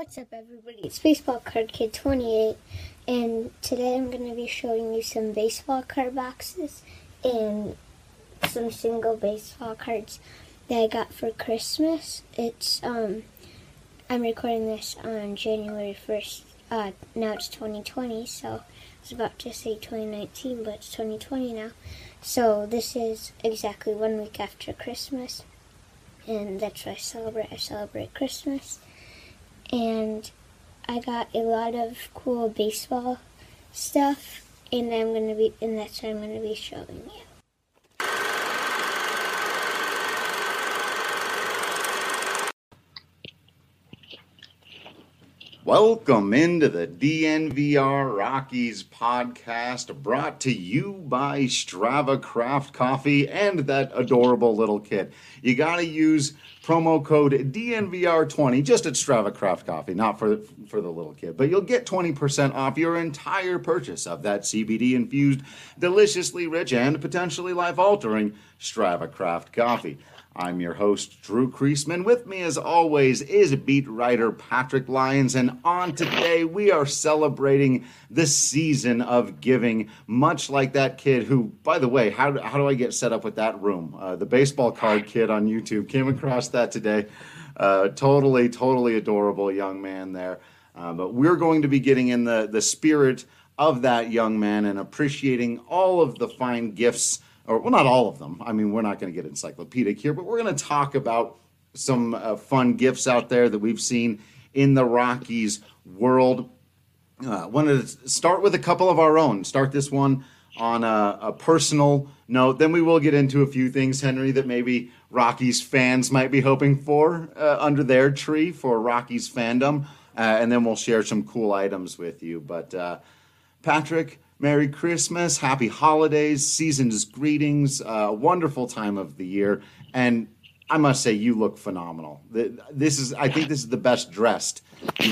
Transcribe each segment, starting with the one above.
What's up, everybody? It's Baseball Card Kid 28, and today I'm going to be showing you some baseball card boxes and some single baseball cards that I got for Christmas. I'm recording this on January 1st. Now it's 2020, so I was about to say 2019, but it's 2020 now. So this is exactly 1 week after Christmas, and that's what I celebrate. I celebrate Christmas. And I got a lot of cool baseball stuff, and that's what I'm gonna be showing you. Welcome into the DNVR Rockies podcast, brought to you by Strava Craft Coffee and that adorable little kid. You got to use promo code DNVR20 just at Strava Craft Coffee, not for the little kid, but you'll get 20% off your entire purchase of that CBD-infused, deliciously rich, and potentially life-altering Strava Craft Coffee. I'm your host, Drew Kreisman. With me, as always, is beat writer Patrick Lyons, and on today, we are celebrating the season of giving, much like that kid who, by the way, how do I get set up with that room? The baseball card kid on YouTube came across that today. Totally adorable young man there. But we're going to be getting in the spirit of that young man and appreciating all of the fine gifts. Well, not all of them. I mean, we're not going to get encyclopedic here, but we're going to talk about some fun gifts out there that we've seen in the Rockies world. Wanted to start with a couple of our own. Start this one on a personal note. Then we will get into a few things, Henry, that maybe Rockies fans might be hoping for under their tree for Rockies fandom. And then we'll share some cool items with you. But Patrick, Merry Christmas, Happy Holidays, season's greetings, wonderful time of the year, and I must say you look phenomenal. I think this is the best dressed.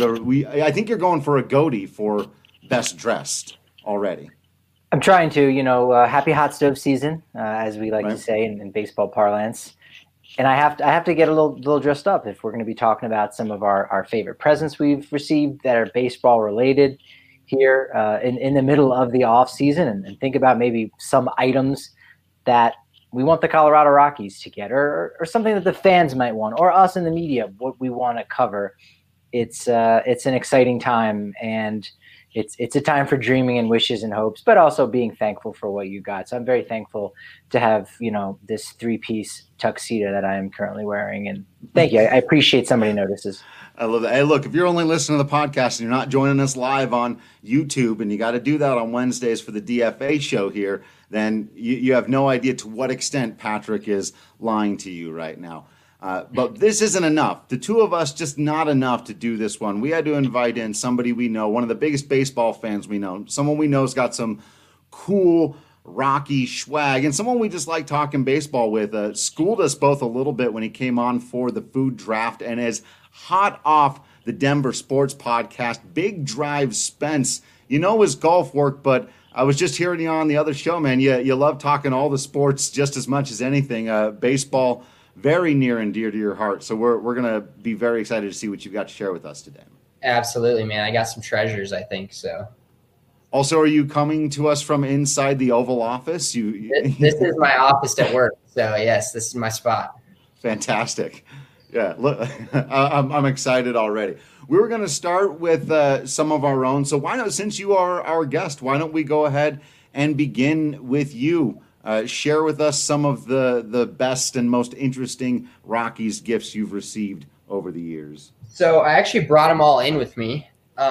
I think you're going for a goatee for best dressed already. I'm trying to, happy hot stove season, as we like to say in baseball parlance, and I have to get a little dressed up if we're going to be talking about some of our favorite presents we've received that are baseball related here in the middle of the off season, and think about maybe some items that we want the Colorado Rockies to get, or something that the fans might want, or us in the media, what we want to cover. It's an exciting time, and it's a time for dreaming and wishes and hopes, but also being thankful for what you got. So I'm very thankful to have, this 3-piece tuxedo that I am currently wearing. And thank you. I appreciate somebody notices. I love that. Hey, look, if you're only listening to the podcast and you're not joining us live on YouTube, and you got to do that on Wednesdays for the DFA show here, then you have no idea to what extent Patrick is lying to you right now. But this isn't enough. The two of us, just not enough to do this one. We had to invite in somebody we know, one of the biggest baseball fans we know, someone we know has got some cool Rocky swag, and someone we just like talking baseball with. Schooled us both a little bit when he came on for the food draft, and is hot off the Denver Sports Podcast, Big Drive Spence. You know his golf work, but I was just hearing you on the other show, man. You love talking all the sports just as much as anything. Baseball, very near and dear to your heart. So we're going to be very excited to see what you've got to share with us today. Absolutely, man. I got some treasures, I think, so. Also, are you coming to us from inside the Oval Office? This is my office at work, so yes, this is my spot. Fantastic. Yeah, look, I'm excited already. We were going to start with some of our own. So why not, since you are our guest, why don't we go ahead and begin with you? Share with us some of the best and most interesting Rockies gifts you've received over the years. So I actually brought them all in with me.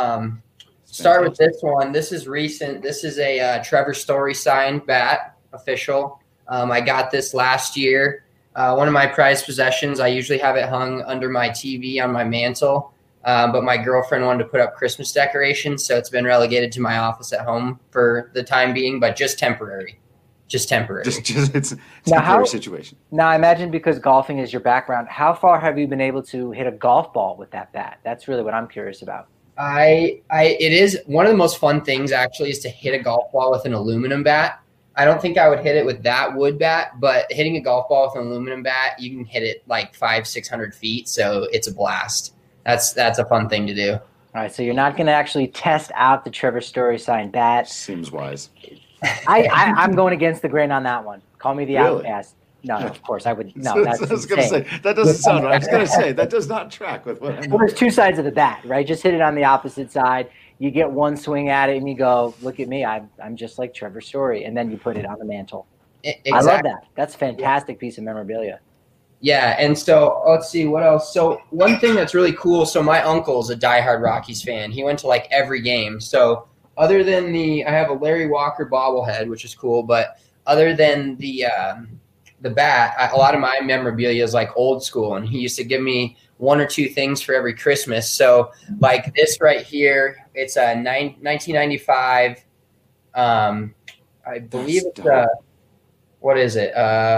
Start with this one. This is recent. This is a Trevor Story signed bat, official. I got this last year. One of my prized possessions. I usually have it hung under my TV on my mantle, but my girlfriend wanted to put up Christmas decorations, so it's been relegated to my office at home for the time being, but just temporary. Just it's a temporary situation. Now, I imagine because golfing is your background, how far have you been able to hit a golf ball with that bat? That's really what I'm curious about. It is one of the most fun things actually is to hit a golf ball with an aluminum bat. I don't think I would hit it with that wood bat, but hitting a golf ball with an aluminum bat, you can hit it like 500-600 feet. So it's a blast. That's a fun thing to do. All right, so you're not going to actually test out the Trevor Story signed bat. Seems wise. I'm going against the grain on that one. Call me the Really? outcast. No, of course I would. No, that's I was going to say that doesn't sound right. I was going to say that does not track with what I know. Well, there's two sides of the bat, right? Just hit it on the opposite side. You get one swing at it, and you go, "Look at me! I'm just like Trevor Story," and then you put it on the mantle. Exactly. I love that. That's a fantastic piece of memorabilia. Yeah, and so let's see what else. So one thing that's really cool. So my uncle is a diehard Rockies fan. He went to like every game. So other than I have a Larry Walker bobblehead, which is cool. But other than the bat, a lot of my memorabilia is like old school, and he used to give me one or two things for every Christmas. So like this right here, it's a 1995. I believe it's what is it?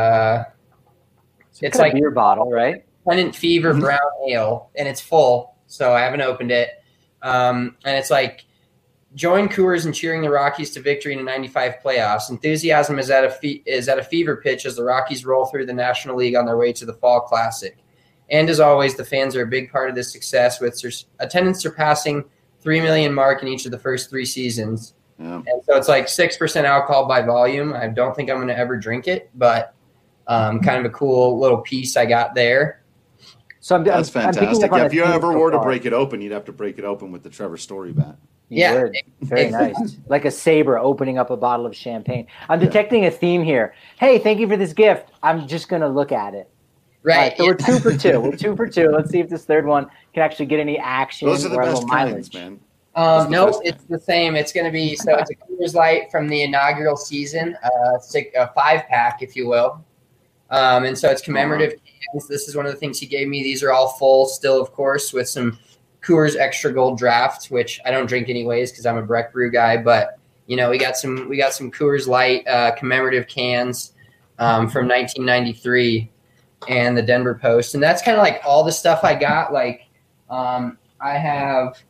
It's like a beer bottle, right? Pennant Fever Brown Ale, and it's full, so I haven't opened it. And it's like, join Coors in cheering the Rockies to victory in the '95 playoffs. Enthusiasm is at a fever pitch as the Rockies roll through the National League on their way to the Fall Classic. And as always, the fans are a big part of this success, with attendance surpassing 3 million mark in each of the first 3 seasons. Yeah. And so it's like 6% alcohol by volume. I don't think I'm going to ever drink it, but kind of a cool little piece I got there. So that's fantastic. If you ever were to break it open, you'd have to break it open with the Trevor Story bat. Yeah, very nice. Like a saber opening up a bottle of champagne. I'm detecting a theme here. Hey, thank you for this gift. I'm just going to look at it. Right. So we're 2 for 2. We're 2 for 2. Let's see if this third one can actually get any action. Those are the best mileage, man. No, it's the same. It's going to be it's a Coors Light from the inaugural season. It's a 5-pack, if you will. And so it's commemorative cans. This is one of the things he gave me. These are all full still, of course, with some Coors Extra Gold Draft, which I don't drink anyways because I'm a Breck Brew guy. But we got some Coors Light commemorative cans from 1993 and the Denver Post, and that's kind of like all the stuff I got. Like I have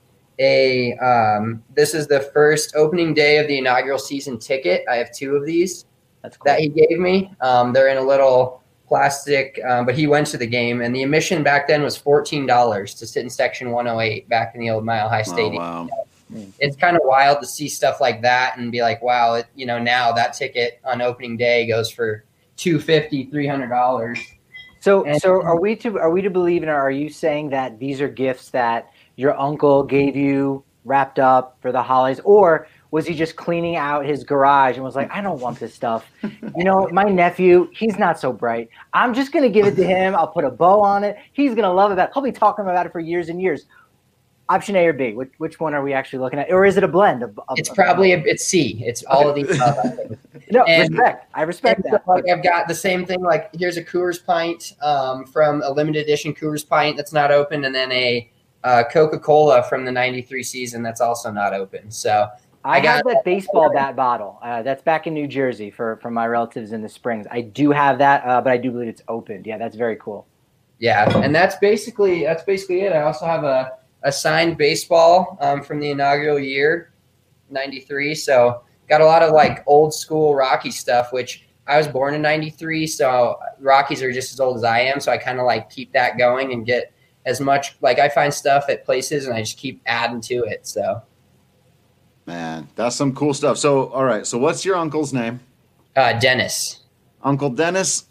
this is the first opening day of the inaugural season ticket. I have 2 of these. That's cool. That he gave me. They're in a little plastic, but he went to the game, and the admission back then was $14 to sit in section 108 back in the old Mile High Stadium. Oh, wow. It's kind of wild to see stuff like that and be like, wow, now that ticket on opening day goes for $250, $300. So are we to believe, and are you saying that these are gifts that your uncle gave you wrapped up for the holidays, or was he just cleaning out his garage and was like, I don't want this stuff. My nephew, he's not so bright. I'm just going to give it to him. I'll put a bow on it. He's going to love it. He'll be talking about it for years and years. Option A or B? Which one are we actually looking at? Or is it a blend of it's probably it's C. It's all of these. No, respect. I respect that. So, I've got the same thing. Like, here's a Coors pint from a limited edition Coors pint that's not open, and then a Coca-Cola from the '93 season that's also not open. So I got that baseball bat bottle. That's back in New Jersey for my relatives in the Springs. I do have that, but I do believe it's opened. Yeah, that's very cool. Yeah, and that's basically it. I also have a signed baseball from the inaugural year, '93. So got a lot of like old school Rocky stuff, which I was born in '93. So Rockies are just as old as I am. So I kind of like keep that going and get as much, like I find stuff at places and I just keep adding to it. So. Man, that's some cool stuff. So, all right. So what's your uncle's name? Dennis. Uncle Dennis.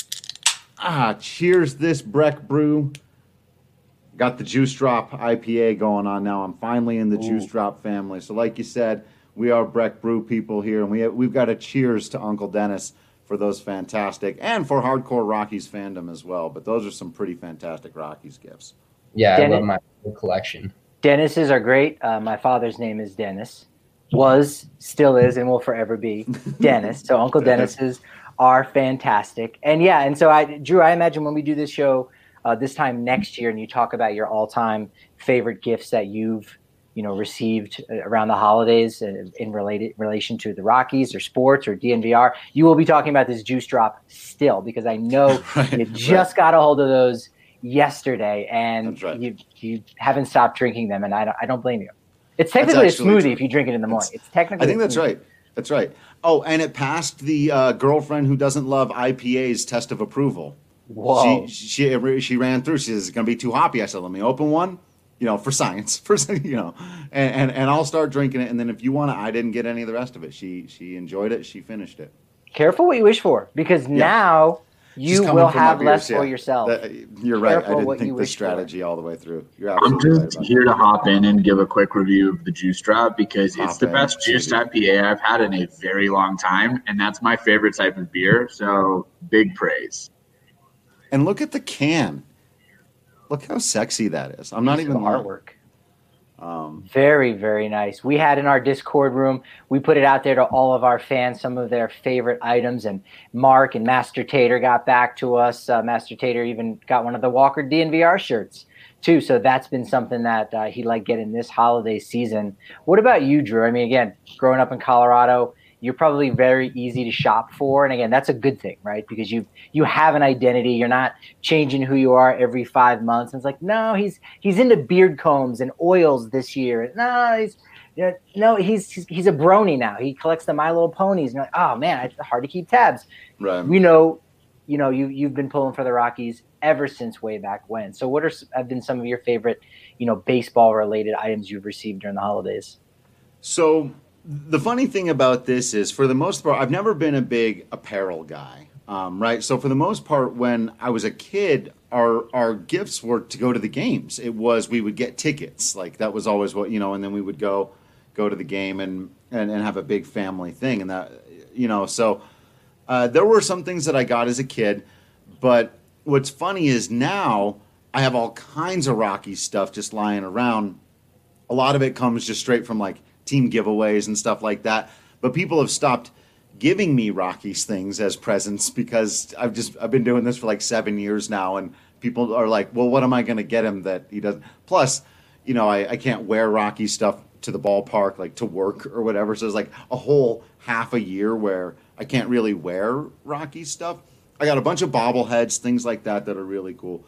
Cheers this Breck Brew. Got the Juice Drop IPA going on now. I'm finally in the Juice Drop family. So like you said, we are Breck Brew people here, and we've got a cheers to Uncle Dennis for those fantastic, and for hardcore Rockies fandom as well. But those are some pretty fantastic Rockies gifts. Yeah, I love my collection. Dennis's are great. My father's name is Dennis. Was, still is, and will forever be Dennis. So Uncle Dennis's are fantastic. And yeah, and so Drew, I imagine when we do this show this time next year and you talk about your all-time favorite gifts that you've received around the holidays in relation to the Rockies or sports or DNVR, you will be talking about this Juice Drop still, because I know you just got a hold of those yesterday and you haven't stopped drinking them, and I don't blame you. It's technically a smoothie if you drink it in the morning. It's technically. I think that's right. That's right. Oh, and it passed the girlfriend who doesn't love IPA's test of approval. Whoa! She ran through. She says, it's going to be too hoppy. I said, let me open one. for science, and I'll start drinking it. And then if you want to, I didn't get any of the rest of it. She enjoyed it. She finished it. Careful what you wish for, because now you will have less for yourself. You're right. I didn't think the strategy all the way through. You're I'm absolutely just right here to hop in and give a quick review of the Juice Drop because it's the best juiced IPA I've had in a very long time, and that's my favorite type of beer. So big praise. And look at the can. Look how sexy that is. I'm not even artwork. Very, very nice. We had in our Discord room, we put it out there to all of our fans, some of their favorite items, and Mark and Master Tater got back to us. Master Tater even got one of the Walker DNVR shirts too. So that's been something that he liked getting this holiday season. What about you, Drew? I mean, again, growing up in Colorado, you're probably very easy to shop for. And again, that's a good thing, right? Because you have an identity. You're not changing who you are every 5 months. And it's like, no, he's into beard combs and oils this year. No, he's a brony now. He collects the My Little Ponies. And you're like, oh man, it's hard to keep tabs. Right. You've been pulling for the Rockies ever since way back when. So what have been some of your favorite, baseball related items you've received during the holidays? So the funny thing about this is, for the most part, I've never been a big apparel guy, right? So for the most part, when I was a kid, our gifts were to go to the games. It was, we would get tickets. Like that was always what, and then we would go to the game and have a big family thing. And that, so there were some things that I got as a kid. But what's funny is now I have all kinds of Rocky stuff just lying around. A lot of it comes just straight from like team giveaways and stuff like that. But people have stopped giving me Rockies things as presents because I've been doing this for like 7 years now, and people are like, well, what am I going to get him that he doesn't? Plus, I can't wear Rocky stuff to the ballpark, like to work or whatever. So there's like a whole half a year where I can't really wear Rocky stuff. I got a bunch of bobbleheads, things like that are really cool.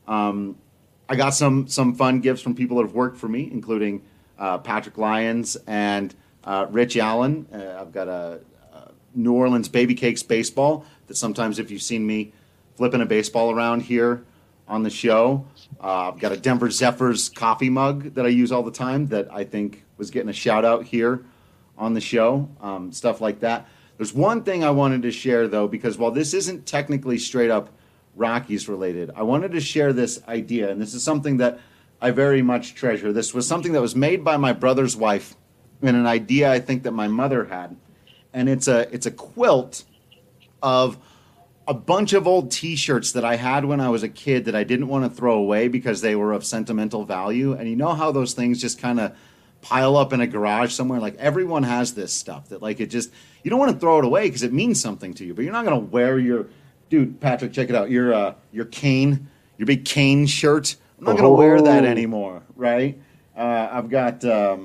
I got some fun gifts from people that have worked for me, including Patrick Lyons and Rich Allen. I've got a New Orleans Baby Cakes baseball that sometimes if you've seen me flipping a baseball around here on the show. I've got a Denver Zephyrs coffee mug that I use all the time that I think was getting a shout out here on the show, stuff like that. There's one thing I wanted to share, though, because while this isn't technically straight up Rockies related, I wanted to share this idea, and this is something that I very much treasure. This was something that was made by my brother's wife, and an idea I think that my mother had. And it's a quilt of a bunch of old T-shirts that I had when I was a kid that I didn't want to throw away because they were of sentimental value. And you know how those things just kind of pile up in a garage somewhere? Like everyone has this stuff that like it just, you don't want to throw it away because it means something to you, but you're not going to wear your, dude, Patrick, check it out. Your Kane, your big Kane shirt. I'm not going to wear that anymore, right? I've got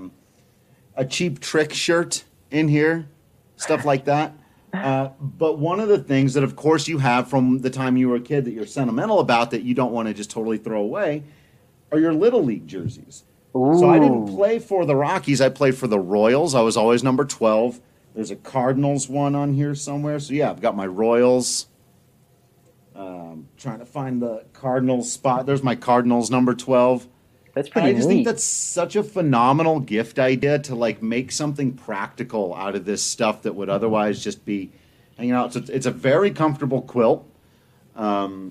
a Cheap Trick shirt in here, stuff like that. But one of the things that, of course, you have from the time you were a kid that you're sentimental about that you don't want to just totally throw away are your Little League jerseys. Ooh. So I didn't play for the Rockies. I played for the Royals. I was always number 12. There's a Cardinals one on here somewhere. So, yeah, I've got my Royals. Trying to find the Cardinals spot. There's my Cardinals number 12. That's pretty neat. I just think that's such a phenomenal gift idea to like make something practical out of this stuff that would otherwise just be hanging out. So it's a very comfortable quilt. So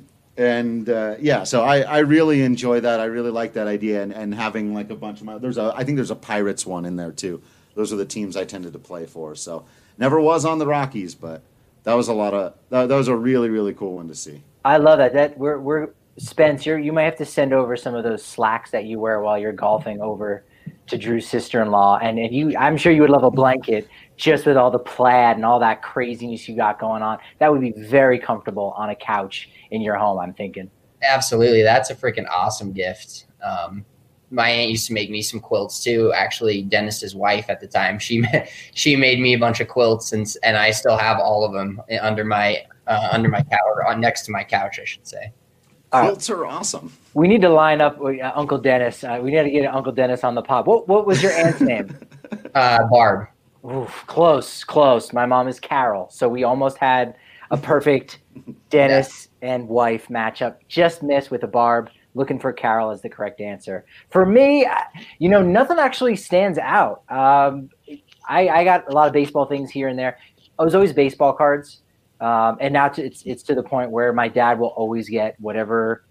I really enjoy that. I really like that idea and having like a bunch of I think there's a Pirates one in there too. Those are the teams I tended to play for. So never was on the Rockies, but that was that was a really, really cool one to see. I love that. We're Spence, you might have to send over some of those slacks that you wear while you're golfing over to Drew's sister-in-law. And I'm sure you would love a blanket just with all the plaid and all that craziness you got going on. That would be very comfortable on a couch in your home, I'm thinking. Absolutely. That's a freaking awesome gift. My aunt used to make me some quilts too. Actually, Dennis's wife at the time, she made me a bunch of quilts, and I still have all of them under my couch, or next to my couch, I should say. Quilts are awesome. We need to line up with Uncle Dennis. We need to get Uncle Dennis on the pod. What was your aunt's name? Barb. Oof, close. My mom is Carol, so we almost had a perfect Dennis and wife matchup. Just missed with a Barb. looking for Carol as the correct answer. For me, nothing actually stands out. I got a lot of baseball things here and there. I was always baseball cards. And now it's to the point where my dad will always get whatever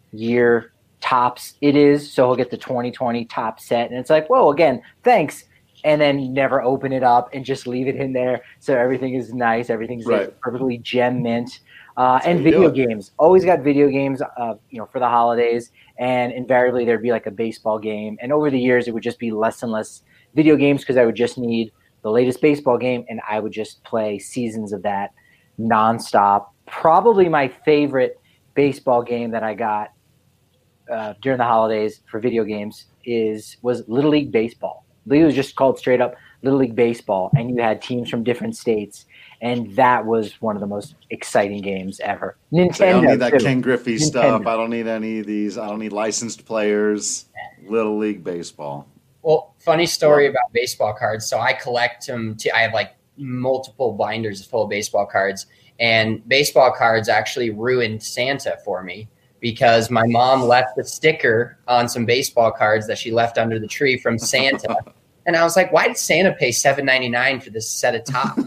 year tops it is. So he'll get the 2020 top set. And it's like, whoa, again, thanks. And then never open it up and just leave it in there. So everything is nice. Everything's perfectly gem mint. And video games. Always got video games, for the holidays. And invariably there'd be like a baseball game. And over the years, it would just be less and less video games because I would just need the latest baseball game. And I would just play seasons of that nonstop. Probably my favorite baseball game that I got during the holidays for video games was Little League Baseball. It was just called straight up Little League Baseball, and you had teams from different states, and that was one of the most exciting games ever. Nintendo. So I don't need that Ken Griffey stuff. I don't need any of these. I don't need licensed players. Little League Baseball. Well, funny story about baseball cards. So I collect them. I have like multiple binders full of baseball cards, and baseball cards actually ruined Santa for me because my mom left a sticker on some baseball cards that she left under the tree from Santa. And I was like, why did Santa pay $7.99 for this set of tops?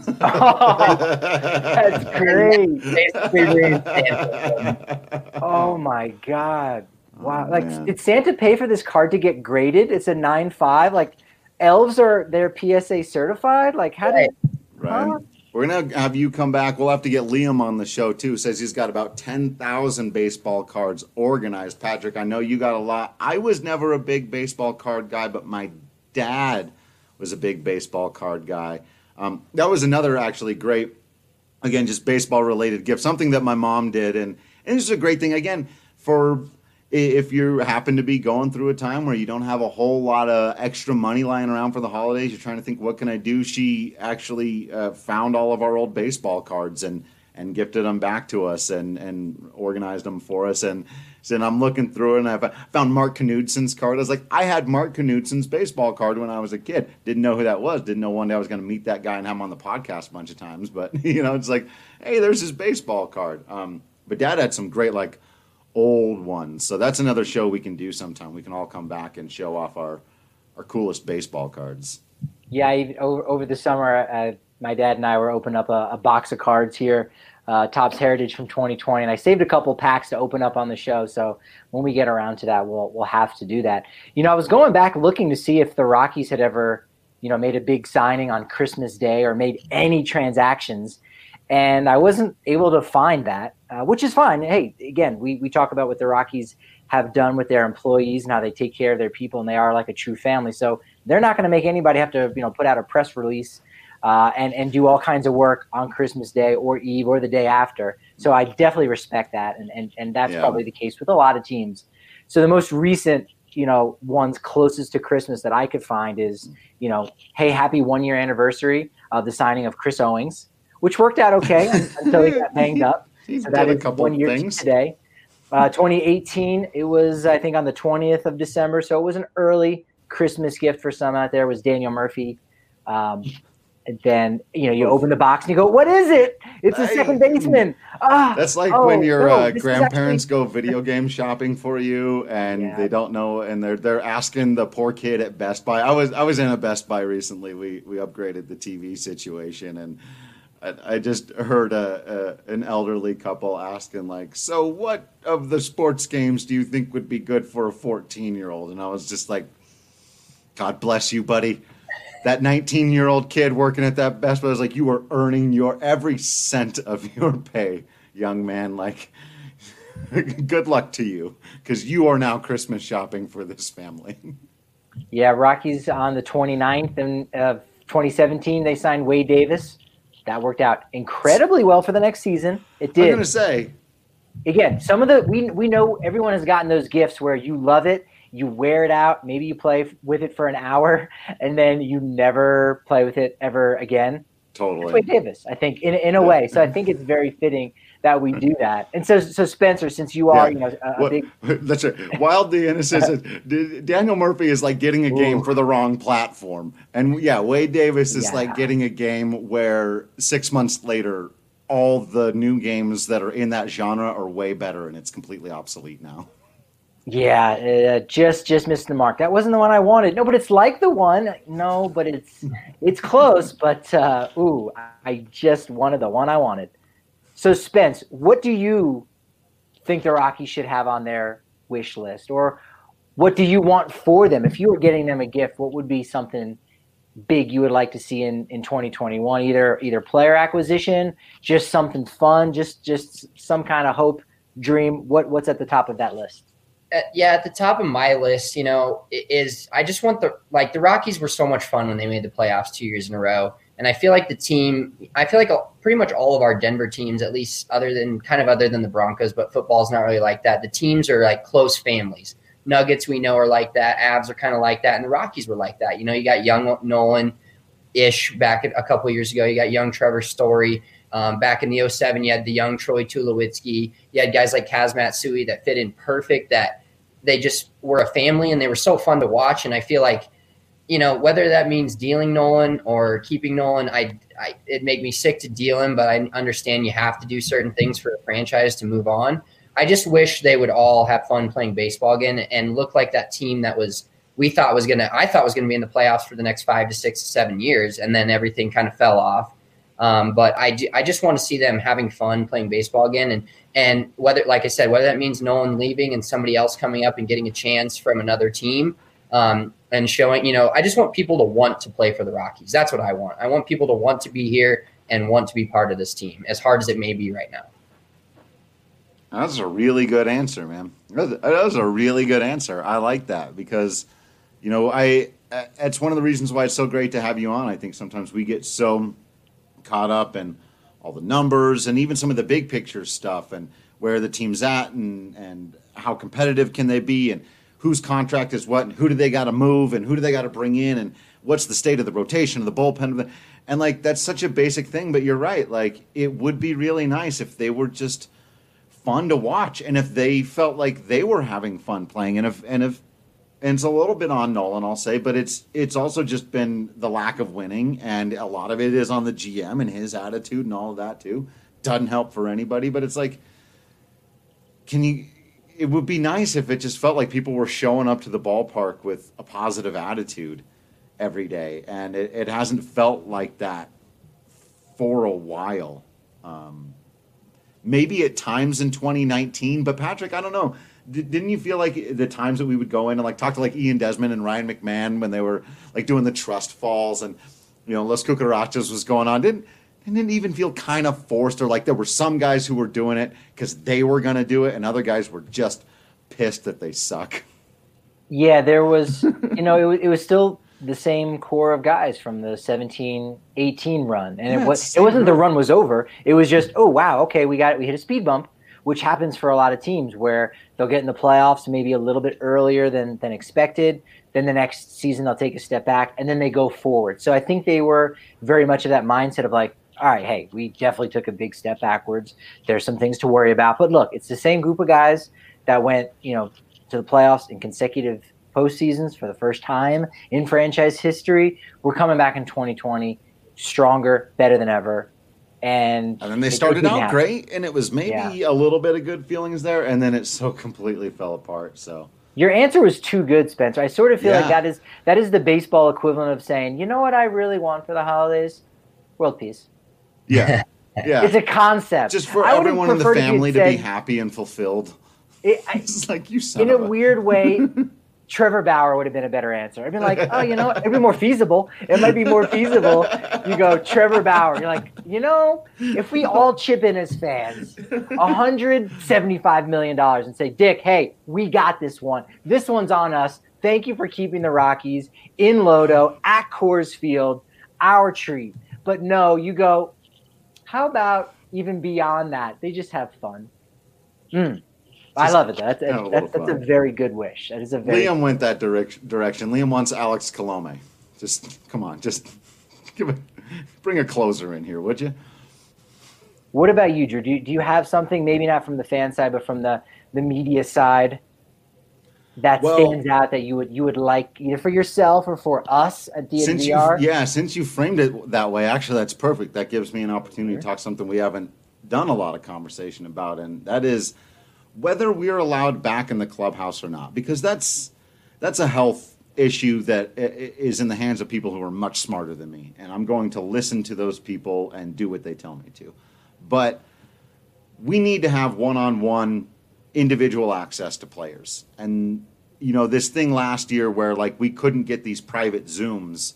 Oh, that's great. Basically ruined Santa. Oh my God. Wow. Did Santa pay for this card to get graded? It's a 9.5. Like elves they're PSA certified. Like how did Right. We're going to have you come back. We'll have to get Liam on the show, too. Says he's got about 10,000 baseball cards organized. Patrick, I know you got a lot. I was never a big baseball card guy, but my dad was a big baseball card guy. That was another actually great, again, just baseball-related gift, something that my mom did. And this is a great thing, again, for if you happen to be going through a time where you don't have a whole lot of extra money lying around for the holidays, you're trying to think, what can I do? She actually found all of our old baseball cards and gifted them back to us and organized them for us. And so I'm looking through it, and I found Mark Knudson's card. I was like, I had Mark Knudson's baseball card when I was a kid. Didn't know who that was. Didn't know one day I was going to meet that guy and have him on the podcast a bunch of times. But, it's like, hey, there's his baseball card. But Dad had some great, old ones. So that's another show we can do sometime. We can all come back and show off our coolest baseball cards. Yeah, over the summer, my dad and I were opening up a box of cards here, Topps Heritage from 2020, and I saved a couple packs to open up on the show. So when we get around to that, we'll have to do that. I was going back looking to see if the Rockies had ever, made a big signing on Christmas Day or made any transactions. And I wasn't able to find that, which is fine. Hey, again, we talk about what the Rockies have done with their employees and how they take care of their people, and they are like a true family. So they're not going to make anybody have to, put out a press release and do all kinds of work on Christmas Day or Eve or the day after. So I definitely respect that, and that's probably the case with a lot of teams. So the most recent, ones closest to Christmas that I could find is, hey, happy 1-year anniversary of the signing of Chris Owings, which worked out okay until he got banged up. So that is 1 year today. 2018, it was, I think, on the 20th of December. So it was an early Christmas gift for some out there. It was Daniel Murphy. And then, you open the box and you go, what is it? It's a second baseman. That's like when your grandparents go video game shopping for you and they don't know, and they're asking the poor kid at Best Buy. I was in a Best Buy recently. We upgraded the TV situation, and I just heard an elderly couple asking, so what of the sports games do you think would be good for a 14-year-old? And I was just like, God bless you, buddy. That 19-year-old kid working at that Best Buy was like, you are earning your every cent of your pay, young man. Good luck to you, because you are now Christmas shopping for this family. Yeah, Rockies on the 29th of 2017, they signed Wade Davis. That worked out incredibly well for the next season. It did. I'm going to say. Again, some of we know everyone has gotten those gifts where you love it, you wear it out, maybe you play with it for an hour, and then you never play with it ever again. Totally. It's Wade Davis, I think, in a way. So I think it's very fitting that we do that. And so Spencer, since you are, a big. That's right. Wildly innocent. Daniel Murphy is like getting a game for the wrong platform. And Wade Davis is like getting a game where 6 months later, all the new games that are in that genre are way better, and it's completely obsolete now. Yeah, just missed the mark. That wasn't the one I wanted. No, but it's like the one. No, but it's close. But I just wanted the one I wanted. So Spence, what do you think the Rockies should have on their wish list, or what do you want for them? If you were getting them a gift, what would be something big you would like to see in 2021? Either player acquisition, just something fun, just some kind of hope, dream. What's at the top of that list? At the top of my list, is I just want the Rockies were so much fun when they made the playoffs 2 years in a row. And I feel like pretty much all of our Denver teams, at least other than the Broncos, but football's not really like that. The teams are like close families. Nuggets, we know, are like that. Avs are kind of like that. And the Rockies were like that. You got young Nolan-ish back a couple of years ago. You got young Trevor Story. Back in the 2007, you had the young Troy Tulowitzki. You had guys like Kaz Matsui that fit in perfect, that they just were a family, and they were so fun to watch. And I feel like, whether that means dealing Nolan or keeping Nolan, it'd make me sick to deal him, but I understand you have to do certain things for a franchise to move on. I just wish they would all have fun playing baseball again and look like that team that I thought was going to be in the playoffs for the next 5 to 6 to 7 years, and then everything kind of fell off. But I just want to see them having fun playing baseball again. And whether, like I said, whether that means Nolan leaving and somebody else coming up and getting a chance from another team, and showing, I just want people to want to play for the Rockies. That's what I want. I want people to want to be here and want to be part of this team, as hard as it may be right now. That's a really good answer, man. That was a really good answer. I like that because, it's one of the reasons why it's so great to have you on. I think sometimes we get so caught up in all the numbers and even some of the big picture stuff and where the team's at and how competitive can they be and whose contract is what and who do they got to move and who do they got to bring in and what's the state of the rotation of the bullpen. And that's such a basic thing, but you're right. It would be really nice if they were just fun to watch and if they felt like they were having fun playing and if it's a little bit on Nolan, I'll say, but it's also just been the lack of winning, and a lot of it is on the GM and his attitude and all of that too. Doesn't help for anybody, but it's like, it would be nice if it just felt like people were showing up to the ballpark with a positive attitude every day, and it hasn't felt like that for a while. Maybe at times in 2019, but Patrick, I don't know. Didn't you feel like the times that we would go in and talk to Ian Desmond and Ryan McMahon when they were doing the trust falls and Los Cucarachas was going on? Didn't it even feel kind of forced, or there were some guys who were doing it because they were going to do it and other guys were just pissed that they suck? Yeah, there was, it was still the same core of guys from the 17-18 run, and it wasn't the run was over. It was just, oh wow, okay, we hit a speed bump, which happens for a lot of teams where they'll get in the playoffs maybe a little bit earlier than expected. Then the next season they'll take a step back and then they go forward. So I think they were very much of that mindset of all right, hey, we definitely took a big step backwards. There's some things to worry about. But look, it's the same group of guys that went, to the playoffs in consecutive postseasons for the first time in franchise history. We're coming back in 2020 stronger, better than ever. And then they started out great, and it was maybe a little bit of good feelings there, and then it so completely fell apart. So your answer was too good, Spencer. I sort of feel like that is the baseball equivalent of saying, you know what I really want for the holidays? World peace. Yeah. Yeah. It's a concept. Just for everyone in the family to be happy and fulfilled. It's like, you son in of a weird way, Trevor Bauer would have been a better answer. I'd been like, oh, it'd be more feasible. It might be more feasible. You go, Trevor Bauer. You're like, if we all chip in as fans, $175 million and say, Dick, hey, we got this one. This one's on us. Thank you for keeping the Rockies in Lodo at Coors Field, our treat. But no, you go, how about even beyond that? They just have fun. I love it. That's a very good wish. That is a very. Liam went that direction. Liam wants Alex Colome. Just come on, just bring a closer in here, would you? What about you, Drew? Do you have something, maybe not from the fan side, but from the media side, that stands out that you would like either for yourself or for us at DNVR? Since you framed it that way, actually, that's perfect. That gives me an opportunity to talk something we haven't done a lot of conversation about, and that is, whether we're allowed back in the clubhouse or not, because that's a health issue that is in the hands of people who are much smarter than me, and I'm going to listen to those people and do what they tell me to. But we need to have one-on-one individual access to players. And, you know, this thing last year where, like, we couldn't get these private Zooms,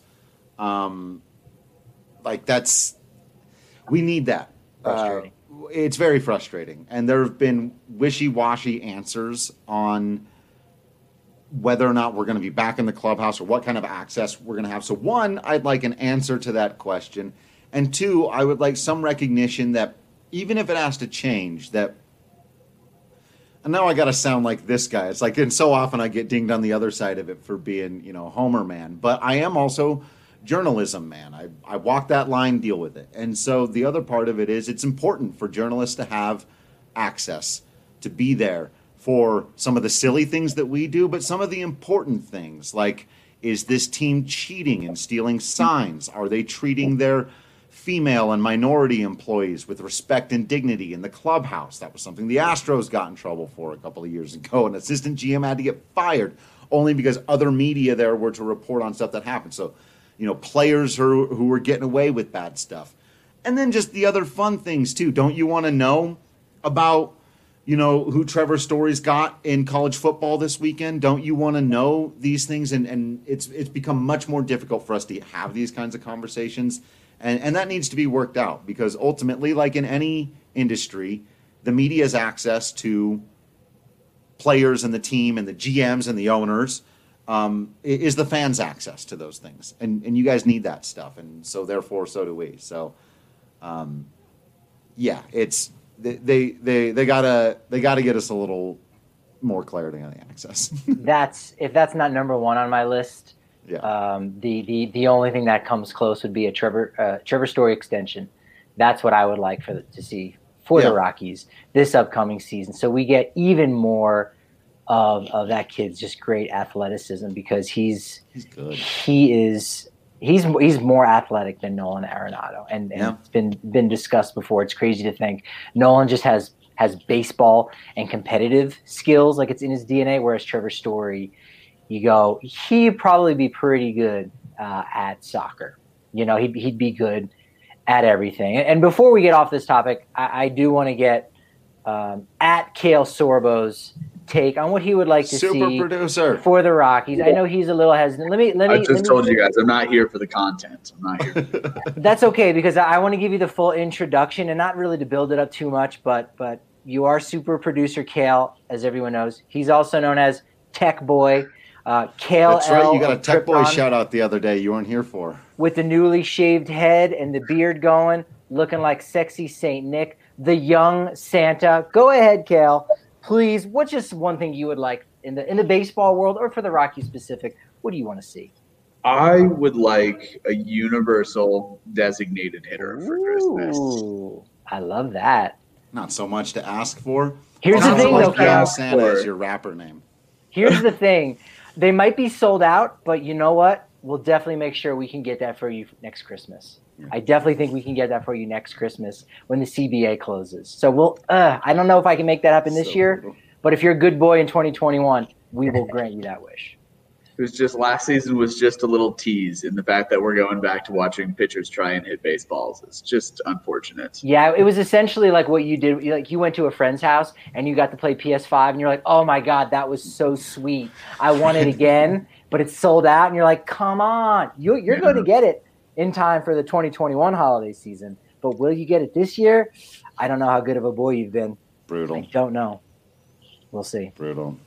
we need that. Frustrating. It's very frustrating. And there have been wishy-washy answers on whether or not we're going to be back in the clubhouse or what kind of access we're going to have. So, one, I'd like an answer to that question. And two, I would like some recognition that even if it has to change, that, and now I got to sound like this guy. It's like, and so often I get dinged on the other side of it for being, you know, Homer man. But I am also journalism man. I walk that line, deal with it. And so the other part of it is it's important for journalists to have access, to be there for some of the silly things that we do, but some of the important things, like, is this team cheating and stealing signs? Are they treating their female and minority employees with respect and dignity in the clubhouse? That was something the Astros got in trouble for a couple of years ago. An assistant GM had to get fired only because other media there were to report on stuff that happened. So, you know, players who were getting away with bad stuff. And then just the other fun things, too. Don't you want to know about, you know, who Trevor Story's got in college football this weekend? Don't you want to know these things? And it's become much more difficult for us to have these kinds of conversations. And that needs to be worked out, because ultimately, like in any industry, the media's access to players and the team and the GMs and the owners is the fans' access to those things. And you guys need that stuff. And so therefore, so do we. So, yeah, it's they gotta get us a little more clarity on the access. If that's not number one on my list. Yeah. The only thing that comes close would be a Trevor Story extension. That's what I would like to see for the Rockies this upcoming season. So we get even more of that kid's just great athleticism, because he's good. He's more athletic than Nolan Arenado, and it's been discussed before. It's crazy to think Nolan just has baseball and competitive skills, like it's in his DNA, whereas Trevor Story, you go, he'd probably be pretty good at soccer. You know, he'd be good at everything. And before we get off this topic, I do want to get at Kale Sorbo's take on what he would like to see producer for the Rockies. I know he's a little hesitant. I just told you guys, I'm not here for the content. I'm not here. That's okay, because I want to give you the full introduction, and not really to build it up too much, but you are super producer Kale, as everyone knows. He's also known as Tech Boy. Kale. That's right. You got a Tech Boy shout out the other day you weren't here for. With the newly shaved head and the beard going, looking like sexy Saint Nick, the young Santa. Go ahead, Kale. Please, what's just one thing you would like in the baseball world, or for the Rockies specific? What do you want to see? I would like a universal designated hitter for Christmas. Ooh, I love that. Not so much to ask for. Here's the thing, though, Kale. Santa is your rapper name. Here's the thing. They might be sold out, but you know what? We'll definitely make sure we can get that for you next Christmas. Yeah. I definitely think we can get that for you next Christmas when the CBA closes. So we'll. I don't know if I can make that happen this year, but if you're a good boy in 2021, we will grant you that wish. It was just last season was just a little tease in the fact that we're going back to watching pitchers try and hit baseballs. It's just unfortunate. Yeah, it was essentially like what you did. Like you went to a friend's house and you got to play PS5 and you're like, oh my God, that was so sweet. I want it again, but it's sold out. And you're like, come on, you're going to get it in time for the 2021 holiday season. But will you get it this year? I don't know how good of a boy you've been. Brutal. I don't know. We'll see. Brutal.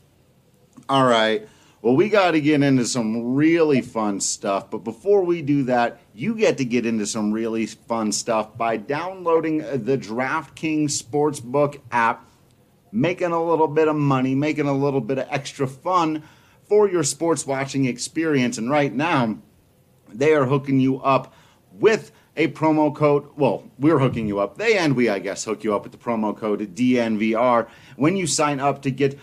All right. Well, we got to get into some really fun stuff. But before we do that, you get to get into some really fun stuff by downloading the DraftKings Sportsbook app, making a little bit of money, making a little bit of extra fun for your sports watching experience. And right now, they are hooking you up with a promo code. Well, we're hooking you up. They and we, I guess, hook you up with the promo code DNVR when you sign up to get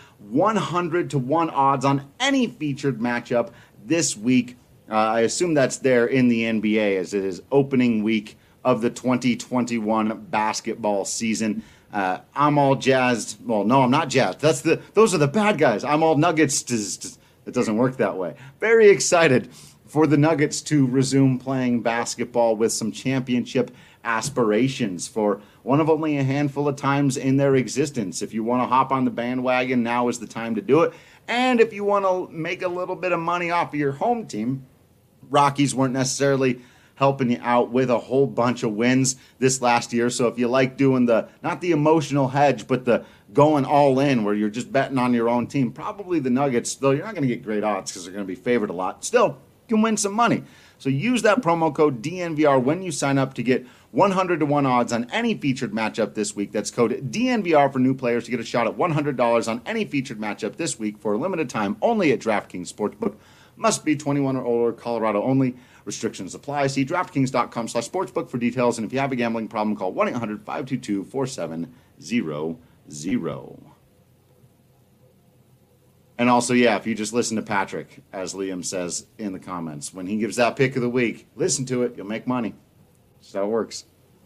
100-1 odds on any featured matchup this week. I assume that's there in the NBA as it is opening week of the 2021 basketball season. I'm all jazzed. Well, no, I'm not jazzed. Those are the bad guys. I'm all Nuggets. It doesn't work that way. Very excited for the Nuggets to resume playing basketball with some championship aspirations for one of only a handful of times in their existence. If you want to hop on the bandwagon, now is the time to do it. And if you want to make a little bit of money off of your home team, Rockies weren't necessarily helping you out with a whole bunch of wins this last year. So if you like doing not the emotional hedge, but the going all in where you're just betting on your own team, probably the Nuggets, though you're not going to get great odds because they're going to be favored a lot. Still, you can win some money. So use that promo code DNVR when you sign up to get 100-to-1 odds on any featured matchup this week. That's code DNVR for new players to get a shot at $100 on any featured matchup this week for a limited time only at DraftKings Sportsbook. Must be 21 or older, Colorado only. Restrictions apply. See DraftKings.com/sportsbook for details. And if you have a gambling problem, call 1-800-522-4700. And also, yeah, if you just listen to Patrick, as Liam says in the comments, when he gives that pick of the week, listen to it. You'll make money. That's how it works.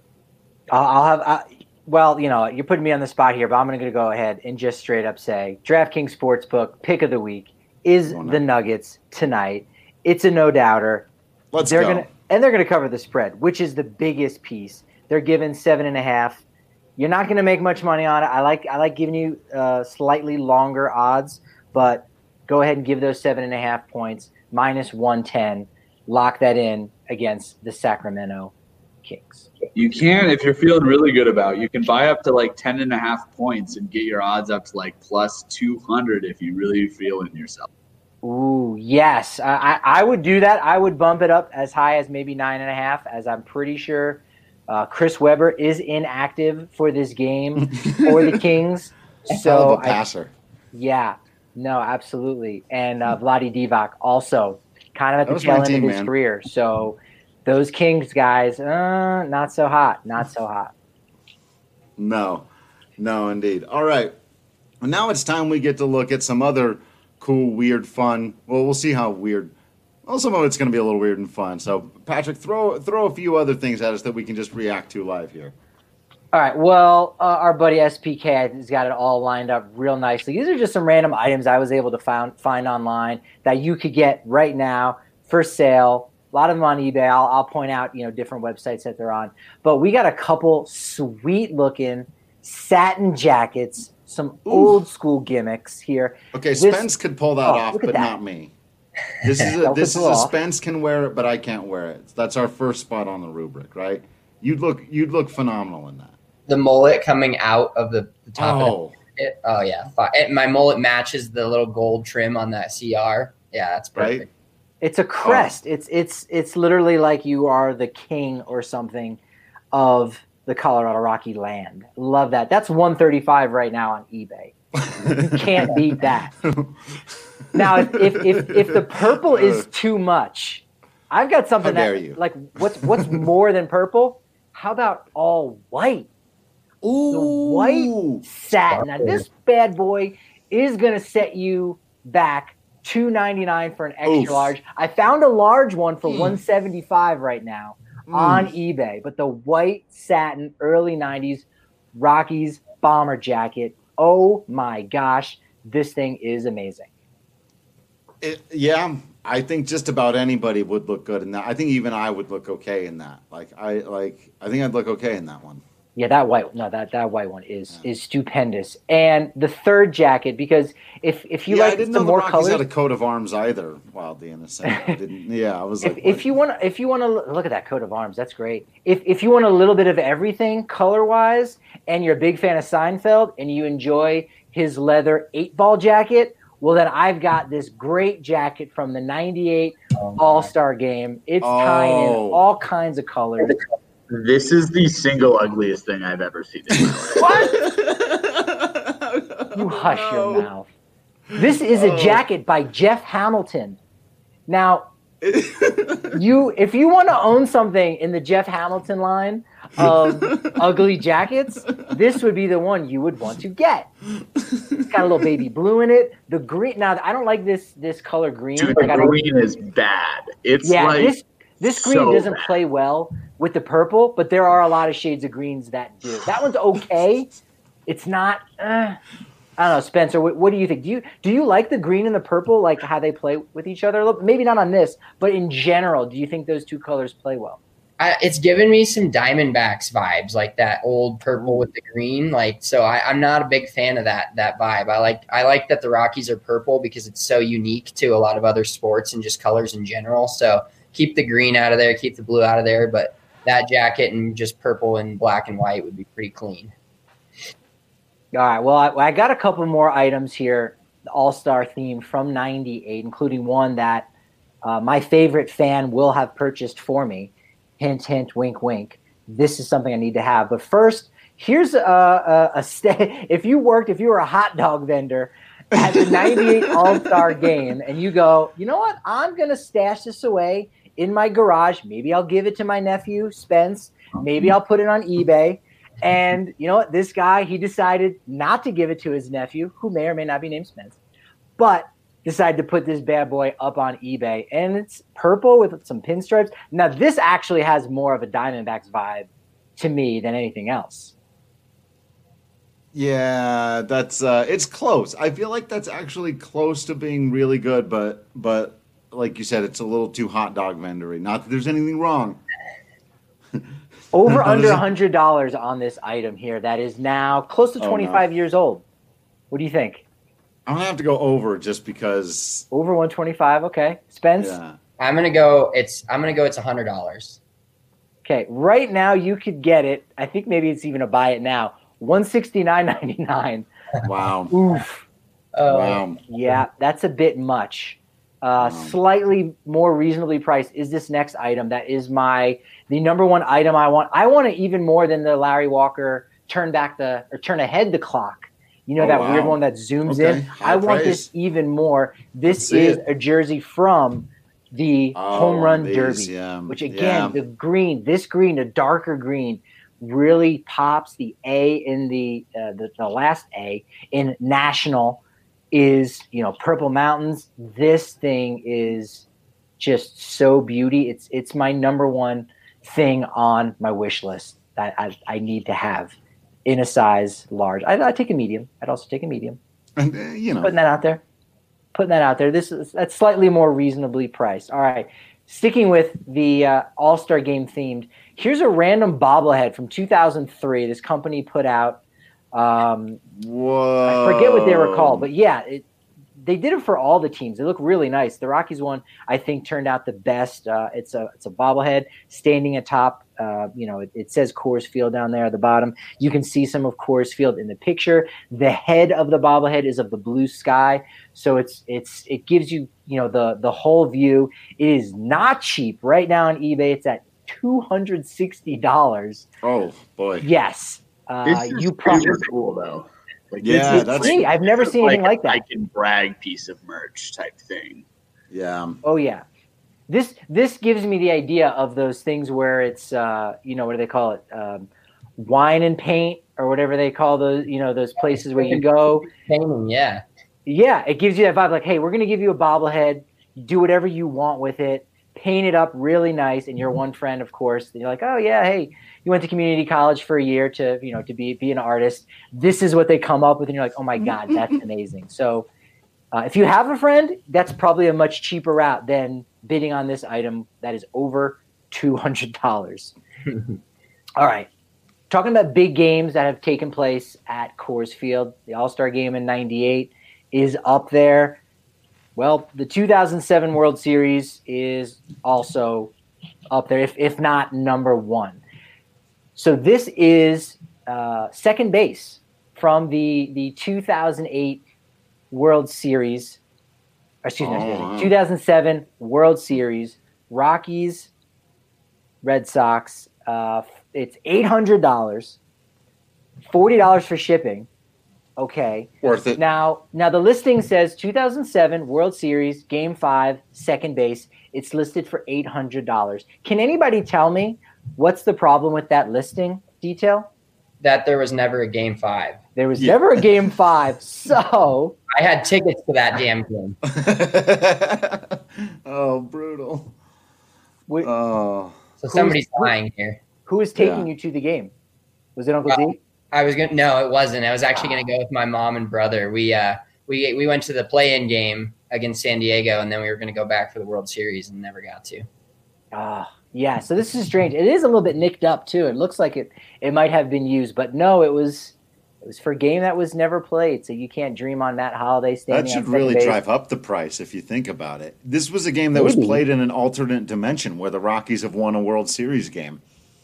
Well, you're putting me on the spot here, but I'm going to go ahead and just straight up say DraftKings Sportsbook pick of the week is the Nuggets tonight. It's a no-doubter. They're going to cover the spread, which is the biggest piece. They're given 7.5. You're not going to make much money on it. I like giving you slightly longer odds. But go ahead and give those 7.5 points, minus 110. Lock that in against the Sacramento Kings. You can, if you're feeling really good about it, you can buy up to like 10.5 points and get your odds up to like plus 200 if you really feel in yourself. Ooh, yes. I would do that. I would bump it up as high as maybe 9.5, as I'm pretty sure Chris Webber is inactive for this game for the Kings. So passer. Yeah. No, absolutely. And Vlade Divac also kind of at the tail end of his career. So those Kings guys, not so hot. Not so hot. No, indeed. All right. Well, now it's time we get to look at some other cool, weird, fun. Well, we'll see how weird. Well, some of it's going to be a little weird and fun. So, Patrick, throw a few other things at us that we can just react to live here. All right, well, our buddy SPK has got it all lined up real nicely. These are just some random items I was able to find online that you could get right now for sale. A lot of them on eBay. I'll point out, different websites that they're on. But we got a couple sweet-looking satin jackets, some old school gimmicks here. Okay, Spence could pull that off, but not me. This is a Spence can wear it, but I can't wear it. That's our first spot on the rubric, right? You'd look phenomenal in that. The mullet coming out of the top of it. Oh, yeah. My mullet matches the little gold trim on that CR. Yeah, that's perfect. Right? It's a crest. It's literally like you are the king or something of the Colorado Rocky land. Love that. That's $135 right now on eBay. You can't beat that. Now, if the purple is too much, I've got something like what's more than purple? How about all white? Ooh. The white satin. Now, this bad boy is going to set you back $299 for an extra large. I found a large one for $175 right now on eBay. But the white satin early 90s Rockies bomber jacket, oh my gosh, this thing is amazing. I think just about anybody would look good in that. I think even I would look okay in that. I think I'd look okay in that one. Yeah, that white one is stupendous. And the third jacket, because if you like some more colors, had a coat of arms either. Wildly innocent. I was like, if you want to look at that coat of arms, that's great. If you want a little bit of everything color wise, and you're a big fan of Seinfeld, and you enjoy his leather 8-ball jacket, well then I've got this great jacket from the '98 All-Star Game. It's tying in all kinds of colors. This is the single ugliest thing I've ever seen in my life. What? You hush your mouth. This is a jacket by Jeff Hamilton. Now, if you want to own something in the Jeff Hamilton line of ugly jackets, this would be the one you would want to get. It's got a little baby blue in it. The green. Now, I don't like this color green. Dude, the green is bad. It's this green doesn't play well with the purple, but there are a lot of shades of greens that do. That one's okay, It's not. I don't know, Spencer. What do you think? Do you like the green and the purple, like how they play with each other? Look, maybe not on this, but in general, do you think those two colors play well? It's given me some Diamondbacks vibes, like that old purple with the green. Like, so I'm not a big fan of that vibe. I like that the Rockies are purple because it's so unique to a lot of other sports and just colors in general. So keep the green out of there, keep the blue out of there, but that jacket and just purple and black and white would be pretty clean. All right. Well, I got a couple more items here, the All-Star theme from '98, including one that my favorite fan will have purchased for me. Hint, hint, wink, wink. This is something I need to have. But first, here's if you were a hot dog vendor at the '98 All-Star game, and you go, you know what? I'm gonna stash this away in my garage. Maybe I'll give it to my nephew Spence. Maybe I'll put it on eBay. And you know what? This guy, he decided not to give it to his nephew, who may or may not be named Spence, but decided to put this bad boy up on eBay. And it's purple with some pinstripes. Now, this actually has more of a Diamondbacks vibe to me than anything else. Yeah, that's it's close. I feel like that's actually close to being really good, but like you said, it's a little too hot dog vendery. Not that there's anything wrong. Over under $100 on this item here that is now close to 25 years old. What do you think? I'm gonna have to go over just because. Over 125, okay. Spence? Yeah. I'm gonna go. It's $100. Okay, right now you could get it. I think maybe it's even a buy it now. $169.99. Wow. Oof. Wow. Yeah, that's a bit much. Slightly more reasonably priced is this next item. That is the number one item I want. I want it even more than the Larry Walker turn ahead the clock. You know, that weird one that zooms in. I want this even more. This is a jersey from the Home Run Derby, which again, this green, a darker green, really pops. The A in the last A in National is, Purple Mountains. This thing is just so beauty. It's my number one thing on my wish list that I need to have in a size large. I'd take a medium. I'd also take a medium. And, Putting that out there. That's slightly more reasonably priced. All right. Sticking with the All-Star Game themed, here's a random bobblehead from 2003. This company put out. Whoa. I forget what they were called, but yeah, they did it for all the teams. They look really nice. The Rockies one, I think, turned out the best. It's a bobblehead standing atop. It says Coors Field down there at the bottom. You can see some of Coors Field in the picture. The head of the bobblehead is of the blue sky, so it gives you the whole view. It is not cheap right now on eBay. It's at $260. Oh boy! Yes, this is super cool though. That's great. I've never seen anything like that. I can brag piece of merch type thing. Yeah. Oh yeah. This gives me the idea of those things where it's what do they call it? Wine and paint or whatever they call those, those places where you go. Painting, yeah. Yeah, it gives you that vibe like, hey, we're going to give you a bobblehead. Do whatever you want with it. Paint it up really nice. And your one friend, of course, and you're like, oh yeah, hey, you went to community college for a year to be an artist. This is what they come up with. And you're like, oh my God, that's amazing. So if you have a friend, that's probably a much cheaper route than bidding on this item that is over $200. All right. Talking about big games that have taken place at Coors Field, the All-Star Game in '98 is up there. Well, the 2007 World Series is also up there, if not number one. So this is second base from the 2008 World Series. Excuse me, 2007 World Series, Rockies, Red Sox. It's $800, $40 for shipping. Okay. Worth it. Now the listing says 2007 World Series, Game 5, second base. It's listed for $800. Can anybody tell me what's the problem with that listing detail? That there was never a Game 5. There was never a Game 5, so I had tickets to that damn game. Oh, brutal. So somebody's lying here. Who was taking you to the game? Was it Uncle D? No, it wasn't. I was actually gonna go with my mom and brother. We went to the play-in game against San Diego, and then we were gonna go back for the World Series and never got to. Yeah. So this is strange. It is a little bit nicked up too. It looks like it might have been used, but no, it was for a game that was never played. So you can't dream on Matt Holliday standing. That should really drive up the price if you think about it. This was a game that was played in an alternate dimension where the Rockies have won a World Series game.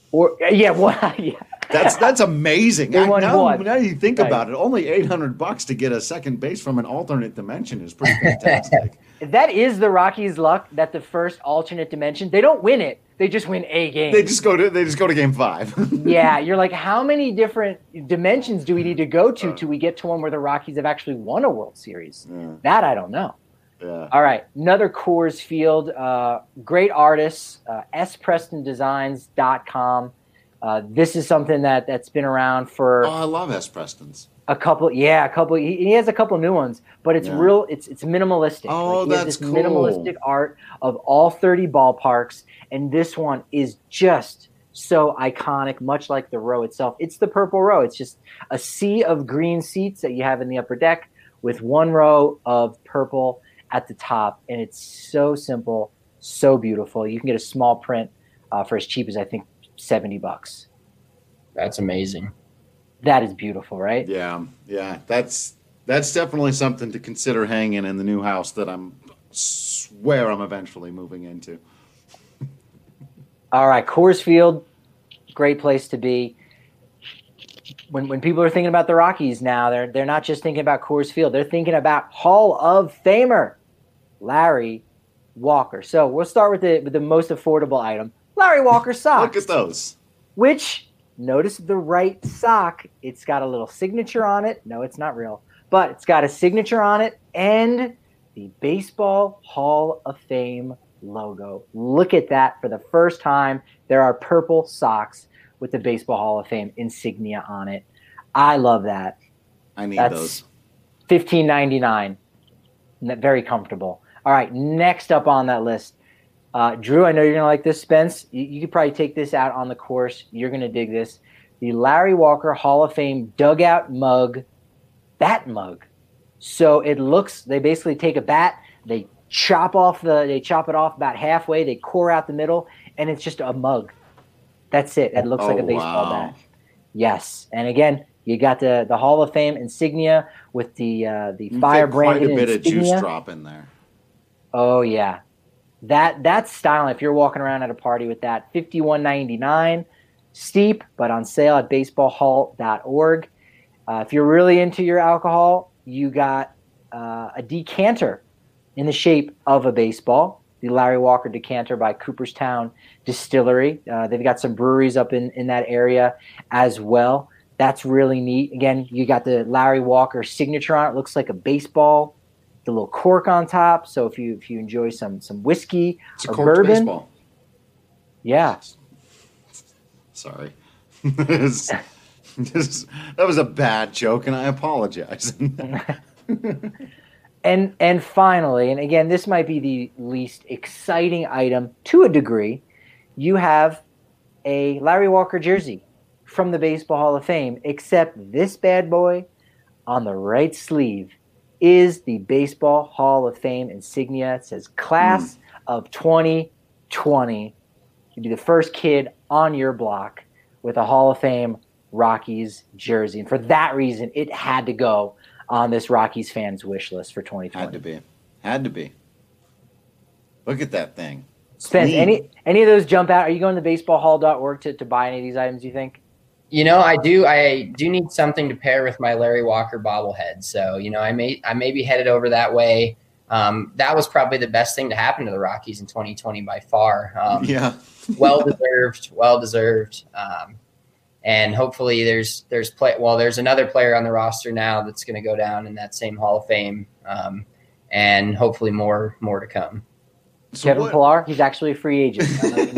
That's amazing. Now you think about it, only $800 to get a second base from an alternate dimension is pretty fantastic. That is the Rockies' luck that the first alternate dimension, they don't win it. They just win a game. They just go to game 5. Yeah, you're like, how many different dimensions do we need to go to till we get to one where the Rockies have actually won a World Series? Yeah. That I don't know. Yeah. All right, another Coors Field. Great artists, sprestondesigns.com. This is something that's been around for. Oh, I love S. Preston's. A couple. He has a couple new ones, but it's real. It's minimalistic. Oh, that's cool. Minimalistic art of all 30 ballparks, and this one is just so iconic, much like the row itself. It's the Purple Row. It's just a sea of green seats that you have in the upper deck with one row of purple at the top, and it's so simple, so beautiful. You can get a small print for as cheap as I think $70. That's amazing. That is beautiful, right? Yeah. That's definitely something to consider hanging in the new house that I'm eventually moving into. All right, Coors Field, great place to be. When people are thinking about the Rockies now, they're not just thinking about Coors Field. They're thinking about Hall of Famer Larry Walker. So we'll start with the most affordable item, Larry Walker socks. Look at those. Which, notice the right sock. It's got a little signature on it. No, it's not real. But it's got a signature on it and the Baseball Hall of Fame logo. Look at that. For the first time, there are purple socks with the Baseball Hall of Fame insignia on it. I love that. I need those. $15.99. Very comfortable. All right, next up on that list. Drew, I know you're going to like this, Spence. You could probably take this out on the course. You're going to dig this. The Larry Walker Hall of Fame dugout mug, bat mug. So it looks, they basically take a bat, they chop it off about halfway, they core out the middle, and it's just a mug. That's it. It looks like a baseball bat. Yes. And again, you got the Hall of Fame insignia with the fire branded insignia. Quite a bit of juice drop in there. Oh yeah. That's styling. If you're walking around at a party with that, $51.99, steep, but on sale at baseballhall.org. If you're really into your alcohol, you got a decanter in the shape of a baseball, the Larry Walker decanter by Cooperstown Distillery. They've got some breweries up in that area as well. That's really neat. Again, you got the Larry Walker signature on it. Looks like a baseball. The little cork on top. So if you enjoy some whiskey or bourbon, baseball. Yeah. Sorry, that was a bad joke, and I apologize. And finally, and again, this might be the least exciting item to a degree. You have a Larry Walker jersey from the Baseball Hall of Fame, except this bad boy on the right sleeve is the Baseball Hall of Fame insignia. It says Class of 2020. You'd be the first kid on your block with a Hall of Fame Rockies jersey. And for that reason, it had to go on this Rockies fans wish list for 2020. Had to be. Look at that thing. Spence, any of those jump out? Are you going to baseballhall.org to buy any of these items, you think? You know, I do need something to pair with my Larry Walker bobblehead. So, you know, I may be headed over that way. That was probably the best thing to happen to the Rockies in 2020 by far. Yeah. well deserved. And hopefully there's another player on the roster now that's going to go down in that same Hall of Fame. And hopefully more to come. So Kevin Pillar, he's actually a free agent.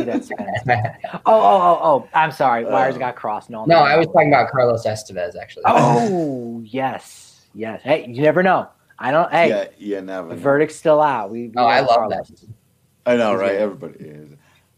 Oh! I'm sorry. Wires got crossed. No, I was talking about Carlos Estevez, actually. Oh, yes. Hey, you never know. I don't. Hey, yeah, never. The verdict's still out. I love Carlos. that. I know, right? Everybody is.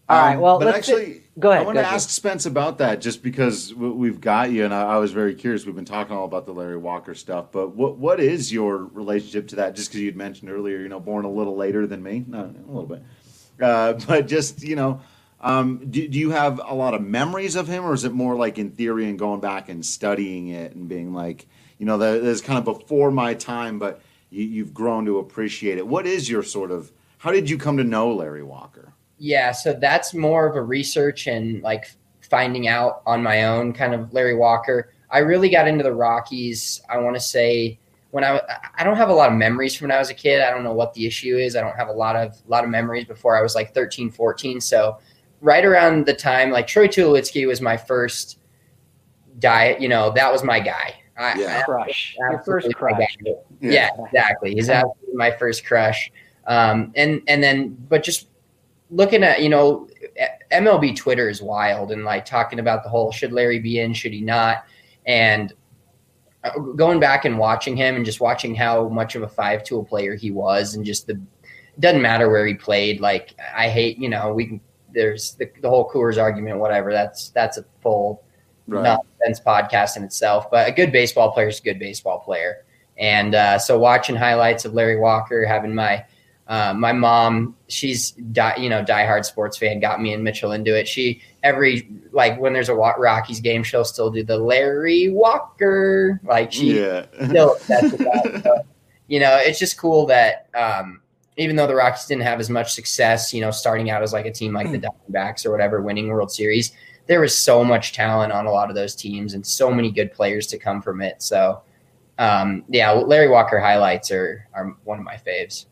All right. Well, but actually, go ahead. I want to ask Spence about that just because we've got you, and I was very curious. We've been talking all about the Larry Walker stuff, but what is your relationship to that? Just because you'd mentioned earlier, born a little later than me, not a little bit, but just do you have a lot of memories of him, or is it more like in theory and going back and studying it and being like, that is kind of before my time, but you've grown to appreciate it. What is your how did you come to know Larry Walker? Yeah, so that's more of a research and like finding out on my own kind of Larry Walker. I really got into the Rockies, I want to say, when I don't have a lot of memories from when I was a kid. I don't know what the issue is. I don't have a lot of memories before I was like 13, 14. So right around the time, like Troy Tulowitzki was my first that was my guy. Crush. Your first crush. Yeah, exactly. He's absolutely my first crush. And then, but just looking at, MLB Twitter is wild and like talking about the whole, should Larry be in, should he not? And going back and watching him and just watching how much of a 5-tool player he was, and just doesn't matter where he played. Like, I hate, there's the whole Coors argument, whatever. That's a full nonsense podcast in itself, but a good baseball player is a good baseball player. And so watching highlights of Larry Walker, having my mom, she's diehard sports fan, got me and Mitchell into it. She when there's a Rockies game, she'll still do the Larry Walker, like still obsessed with that. So, it's just cool that even though the Rockies didn't have as much success, starting out as like a team like the Diamondbacks or whatever, winning World Series, there was so much talent on a lot of those teams and so many good players to come from it. So Larry Walker highlights are one of my faves.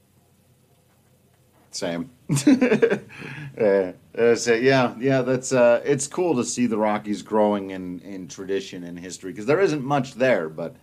Same. That's it's cool to see the Rockies growing in tradition and history, because there isn't much there, but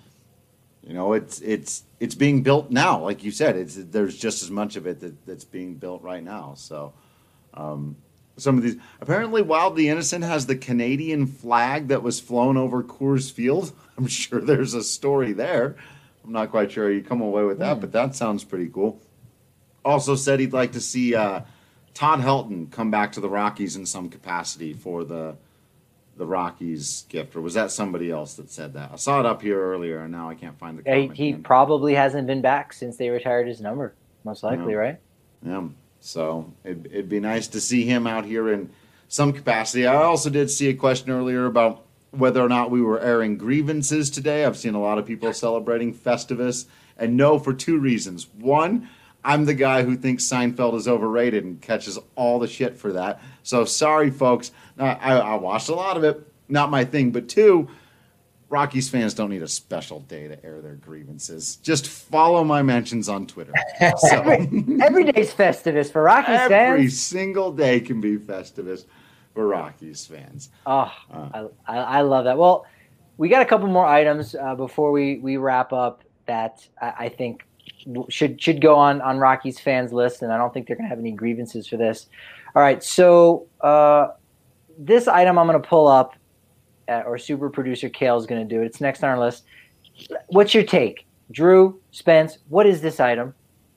it's being built now. Like you said, there's just as much of it that's being built right now. So some of these, apparently Wildly Innocent has the Canadian flag that was flown over Coors Field. I'm sure there's a story there. I'm not quite sure you come away with that, but that sounds pretty cool. Also said he'd like to see Todd Helton come back to the Rockies in some capacity for the Rockies gift. Or was that somebody else that said that? I saw it up here earlier, and now I can't find the comment. He probably hasn't been back since they retired his number, most likely, right? Yeah. So it'd be nice to see him out here in some capacity. I also did see a question earlier about whether or not we were airing grievances today. I've seen a lot of people celebrating Festivus, and no, for two reasons. One, I'm the guy who thinks Seinfeld is overrated and catches all the shit for that. So sorry, folks. I watched a lot of it. Not my thing. But two, Rockies fans don't need a special day to air their grievances. Just follow my mentions on Twitter. So, every day's Festivus for Rockies fans. Every single day can be Festivus for Rockies fans. Oh, I love that. Well, we got a couple more items before we wrap up that I think should go on Rockies fans' list, and I don't think they're going to have any grievances for this. All right, so this item I'm going to pull up, or super producer Kale is going to do it. It's next on our list. What's your take? Drew, Spence, what is this item?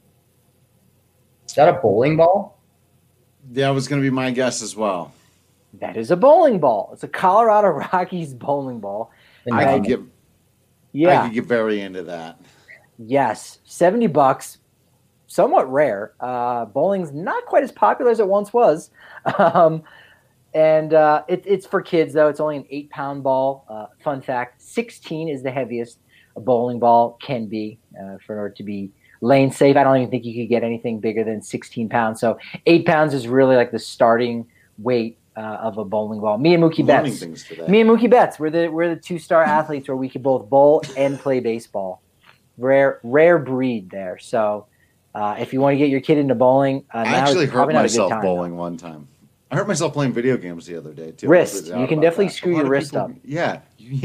Is that a bowling ball? That was going to be my guess as well. That is a bowling ball. It's a Colorado Rockies bowling ball. I could get very into that. Yes, $70, somewhat rare. Bowling's not quite as popular as it once was. It's for kids, though. It's only an 8-pound ball. Fun fact, 16 is the heaviest a bowling ball can be for order to be lane safe. I don't even think you could get anything bigger than 16 pounds. So 8 pounds is really like the starting weight of a bowling ball. Me and Mookie Betts, we're the 2-star athletes where we could both bowl and play baseball. Rare breed there. So if you want to get your kid into bowling, I actually hurt myself bowling one time. I hurt myself playing video games the other day too. Wrist. You can definitely screw your wrist up. Yeah.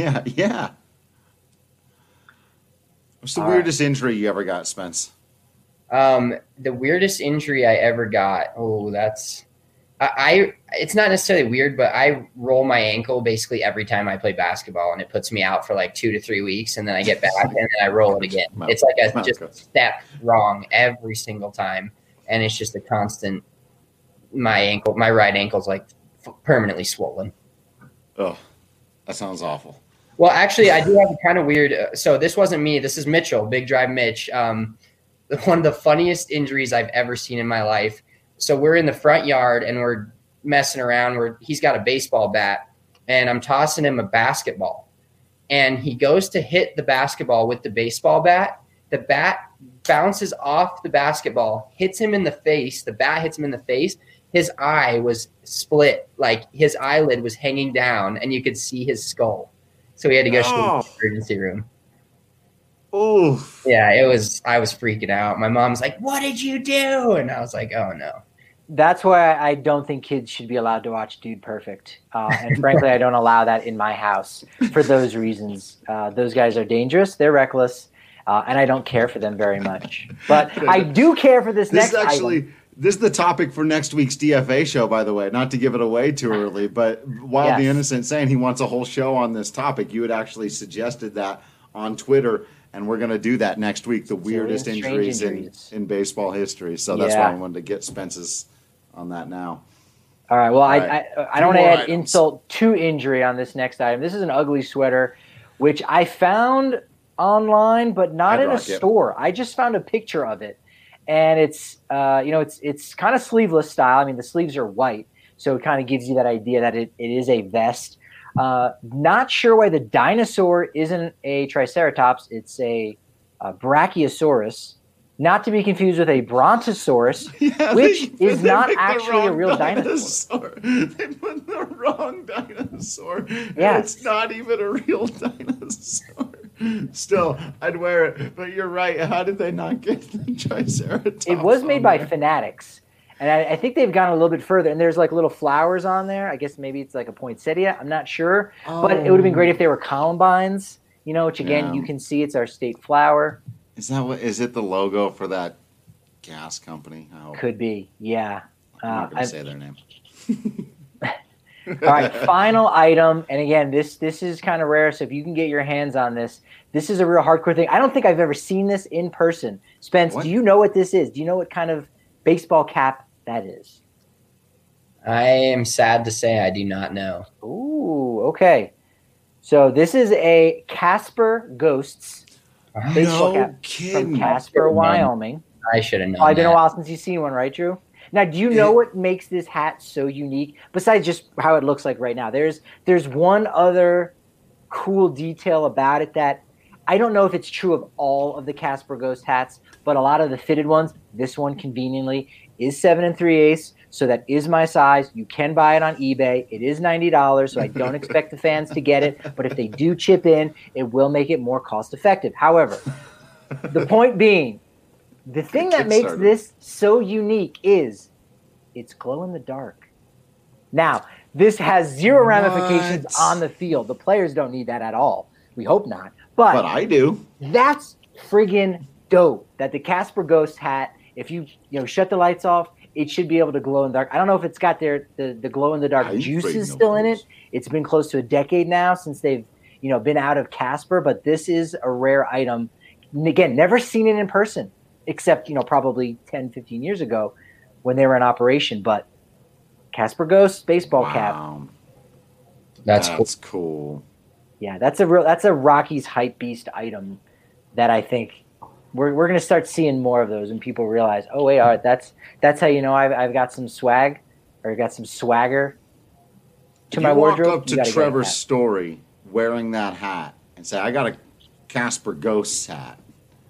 What's the weirdest injury you ever got, Spence? The weirdest injury I ever got. Oh, that's it's not necessarily weird, but I roll my ankle basically every time I play basketball, and it puts me out for like 2 to 3 weeks, and then I get back and then I roll it again. It's like I just step wrong every single time, and it's just a constant my right ankle's like permanently swollen. Oh, that sounds awful. Well, actually, I do have a kind of weird. So this wasn't me. This is Mitchell, Big Drive Mitch. One of the funniest injuries I've ever seen in my life. So we're in the front yard and we're messing around. He's got a baseball bat, and I'm tossing him a basketball, and he goes to hit the basketball with the baseball bat. The bat bounces off the basketball, hits him in the face. The bat hits him in the face. His eye was split, like his eyelid was hanging down, and you could see his skull. So we had to go to the emergency room. Oh, yeah, I was freaking out. My mom's like, "What did you do?" And I was like, "Oh no." That's why I don't think kids should be allowed to watch Dude Perfect. And frankly, I don't allow that in my house for those reasons. Those guys are dangerous. They're reckless. And I don't care for them very much. But I do care for this next item. This is the topic for next week's DFA show, by the way. Not to give it away too early, but Wild the Innocent saying he wants a whole show on this topic. You had actually suggested that on Twitter, and we're going to do that next week, the weirdest injuries in baseball history. So that's why I wanted to get Spence's on that now. All right. Well, I don't want to add insult to injury on this next item. This is an ugly sweater, which I found online, but not in a store. I just found a picture of it, and it's it's kind of sleeveless style. I mean, the sleeves are white, so it kind of gives you that idea that it is a vest. Not sure why the dinosaur isn't a Triceratops. It's a Brachiosaurus, not to be confused with a Brontosaurus, which is not actually a real dinosaur. They put the wrong dinosaur. Yeah, it's not even a real dinosaur. Still, I'd wear it. But you're right. How did they not get the Triceratops? It was made by Fanatics. And I think they've gone a little bit further. And there's like little flowers on there. I guess maybe it's like a poinsettia. I'm not sure. But it would have been great if they were columbines, which again, you can see it's our state flower. Is it the logo for that gas company? Could be, yeah. I'm not going to say their name. All right, final item. And again, this is kind of rare. So if you can get your hands on this, this is a real hardcore thing. I don't think I've ever seen this in person. Spence, do you know what this is? Do you know what kind of baseball cap that is? I am sad to say I do not know. Ooh, okay. So this is a Casper Ghosts baseball cap from Casper, Wyoming. I should have known. It's been a while since you've seen one, right, Drew? Now, do you know what makes this hat so unique? Besides just how it looks like right now, there's one other cool detail about it that I don't know if it's true of all of the Casper Ghost hats, but a lot of the fitted ones, this one conveniently is 7 3/8, so that is my size. You can buy it on eBay. It is $90, so I don't expect the fans to get it, but if they do chip in, it will make it more cost effective. However, the point being, the thing that makes this so unique is it's glow in the dark. Now, this has zero ramifications on the field. The players don't need that at all. We hope not. But I do. That's friggin' dope that the Casper Ghost hat, if you shut the lights off, it should be able to glow in the dark. I don't know if it's got the glow in the dark juices still in it. It's been close to a decade now since they've been out of Casper, but this is a rare item. And again, never seen it in person, except probably 10, 15 years ago when they were in operation. But Casper Ghost baseball cap. That's cool. Yeah, that's a Rockies hype beast item that I think we're going to start seeing more of those when people realize, oh wait, all right, that's how I've got some swag or got some swagger to my wardrobe. You walk up to Trevor's Story wearing that hat and say, I got a Casper Ghost hat.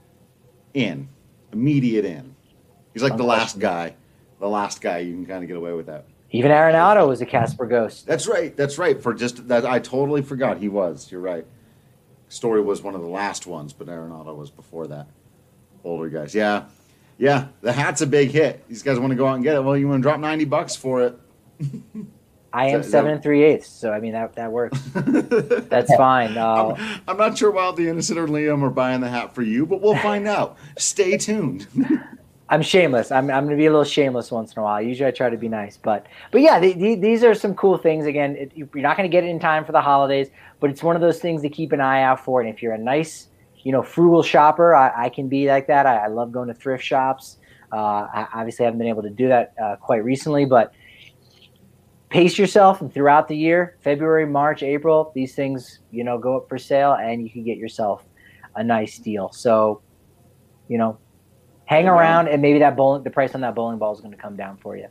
Immediate in. He's like the last guy you can kind of get away with that. Even Arenado was a Casper Ghost. That's right. For just that, I totally forgot he was. You're right. Story was one of the last ones, but Arenado was before that. Older guys. Yeah. The hat's a big hit. These guys want to go out and get it. Well, you want to drop $90 for it. I am 7 3/8, so I mean that works. That's fine. I'm not sure Wild the Innocent or Liam are buying the hat for you, but we'll find out. Stay tuned. I'm shameless. I'm going to be a little shameless once in a while. Usually I try to be nice, but yeah, these are some cool things. Again, you're not going to get it in time for the holidays, but it's one of those things to keep an eye out for. And if you're a nice, frugal shopper, I can be like that. I love going to thrift shops. I obviously haven't been able to do that quite recently, but pace yourself throughout the year. February, March, April, these things, go up for sale, and you can get yourself a nice deal. So, hang around, and maybe the price on that bowling ball is going to come down for you.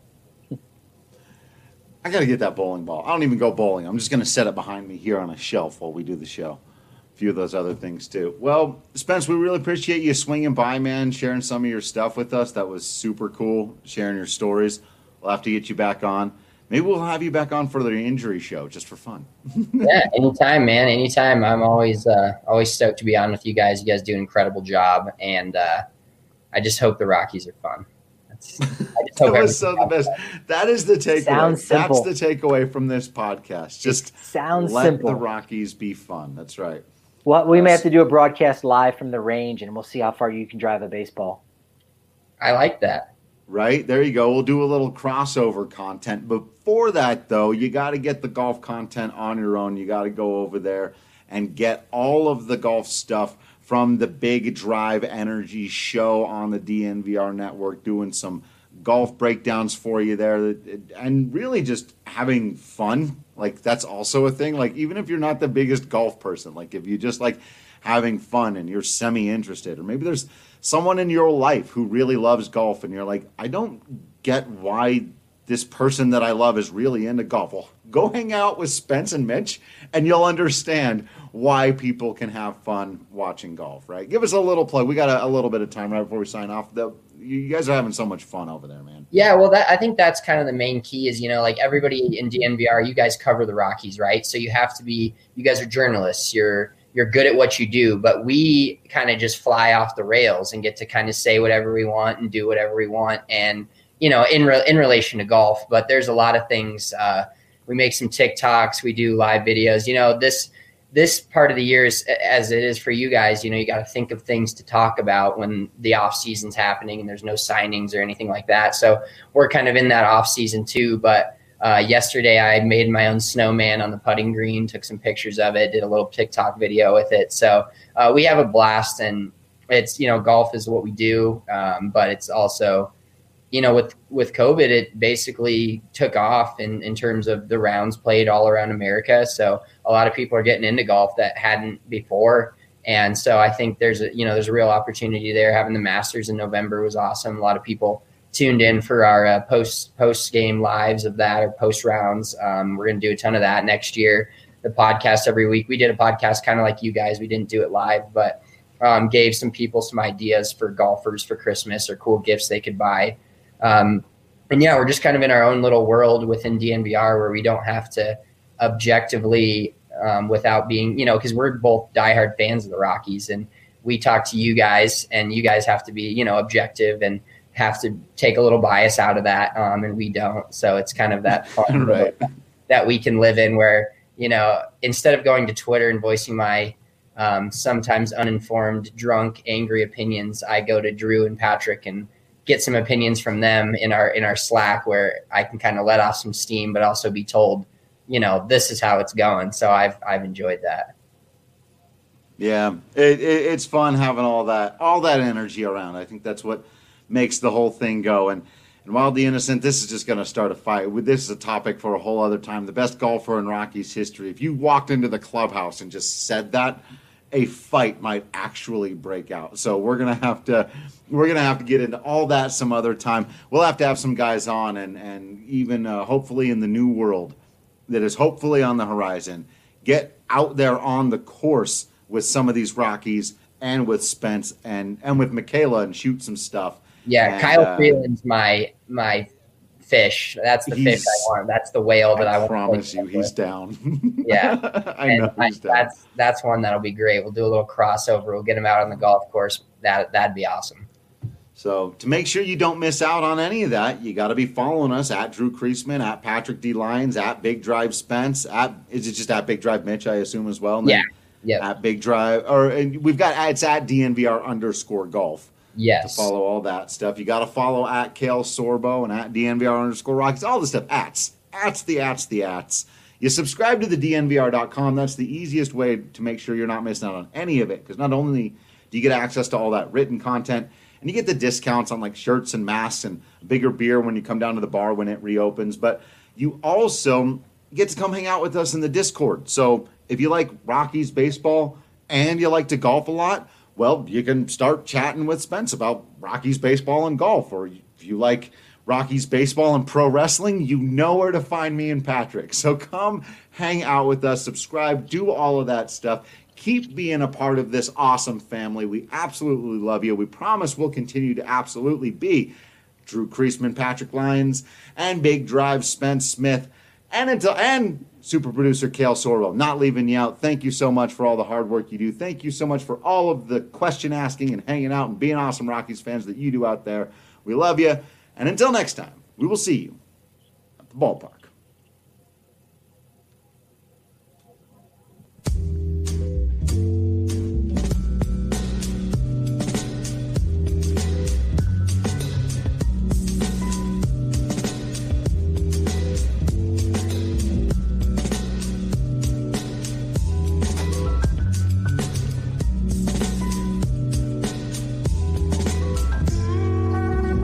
I got to get that bowling ball. I don't even go bowling. I'm just going to set it behind me here on a shelf while we do the show. A few of those other things too. Well, Spence, we really appreciate you swinging by, man, sharing some of your stuff with us. That was super cool, sharing your stories. We'll have to get you back on. Maybe we'll have you back on for the injury show just for fun. Yeah, anytime, man. Anytime. I'm always stoked to be on with you guys. You guys do an incredible job, and I just hope the Rockies are fun. That was so the best. That is the takeaway. Sounds simple. That's the takeaway from this podcast. Just let simple. the Rockies be fun. That's right. Well, we may have to do a broadcast live from the range, and we'll see how far you can drive a baseball. I like that. Right? There you go. We'll do a little crossover content. Before that, though, you got to get the golf content on your own. You got to go over there and get all of the golf stuff from the Big Drive Energy show on the DNVR network, doing some golf breakdowns for you there, and really just having fun. Like, that's also a thing. Like, even if you're not the biggest golf person, like if you just like having fun and you're semi-interested, or maybe there's someone in your life who really loves golf and you're like, I don't get why this person that I love is really into golf. Well, go hang out with Spence and Mitch and you'll understand why people can have fun watching golf, right? Give us a little plug. We got a little bit of time right before we sign off. You guys are having so much fun over there, man. Yeah, well, I think that's kind of the main key is, like everybody in DNVR, you guys cover the Rockies, right? So you guys are journalists. You're good at what you do, but we kind of just fly off the rails and get to kind of say whatever we want and do whatever we want. And, in relation to golf, but there's a lot of things. We make some TikToks, we do live videos, this part of the year is as it is for you guys, you got to think of things to talk about when the off season's happening and there's no signings or anything like that. So we're kind of in that off season too. But yesterday I made my own snowman on the putting green, took some pictures of it, did a little TikTok video with it. So we have a blast, and it's, golf is what we do. But it's also, with COVID, it basically took off in terms of the rounds played all around America. So a lot of people are getting into golf that hadn't before. And so I think there's a real opportunity there. Having the Masters in November was awesome. A lot of people tuned in for our post game lives of that, or post rounds. We're going to do a ton of that next year. The podcast every week. We did a podcast kind of like you guys. We didn't do it live, but gave some people some ideas for golfers for Christmas or cool gifts they could buy. And yeah, we're just kind of in our own little world within DNVR where we don't have to objectively, without being, because we're both diehard fans of the Rockies, and we talk to you guys, and you guys have to be, objective and have to take a little bias out of that. And we don't. So it's kind of that fun right. that we can live in where, instead of going to Twitter and voicing my sometimes uninformed, drunk, angry opinions, I go to Drew and Patrick and get some opinions from them in our Slack, where I can kind of let off some steam, but also be told, this is how it's going. So I've enjoyed that. Yeah, it's fun having all that energy around. I think that's what makes the whole thing go. And Wildly Innocent, this is just going to start a fight. This is a topic for a whole other time. The best golfer in Rockies history. If you walked into the clubhouse and just said that, a fight might actually break out. So we're gonna have to get into all that some other time. We'll have to have some guys on, and even hopefully in the new world that is hopefully on the horizon, get out there on the course with some of these Rockies and with Spence and with Michaela and shoot some stuff. Yeah, and Kyle Freeland's my fish. That's the fish I want. That's the whale that I want. I promise you, he's down. Yeah, I know he's down. That's one that'll be great. We'll do a little crossover. We'll get him out on the golf course. That'd be awesome. So to make sure you don't miss out on any of that, you got to be following us at Drew Creasman, at Patrick D. Lyons, at Big Drive Spence. Is it just at Big Drive Mitch, I assume, as well? And yeah. Yeah. At Big Drive, it's at DNVR_golf. Yes. To follow all that stuff. You got to follow at Kale Sorbo and at DNVR_Rockies. All the stuff. ats. You subscribe to the DNVR.com. That's the easiest way to make sure you're not missing out on any of it. Because not only do you get access to all that written content, and And you get the discounts on like shirts and masks and bigger beer when you come down to the bar when it reopens. But you also get to come hang out with us in the Discord. So if you like Rockies baseball and you like to golf a lot, well, you can start chatting with Spence about Rockies baseball and golf. Or if you like Rockies baseball and pro wrestling, you know where to find me and Patrick. So come hang out with us, subscribe, do all of that stuff. Keep being a part of this awesome family. We absolutely love you. We promise we'll continue to absolutely be Drew Creasman, Patrick Lyons, and Big Drive Spence Smith, and super producer Kale Sorwell. Not leaving you out. Thank you so much for all the hard work you do. Thank you so much for all of the question asking and hanging out and being awesome Rockies fans that you do out there. We love you. And until next time, we will see you at the ballpark.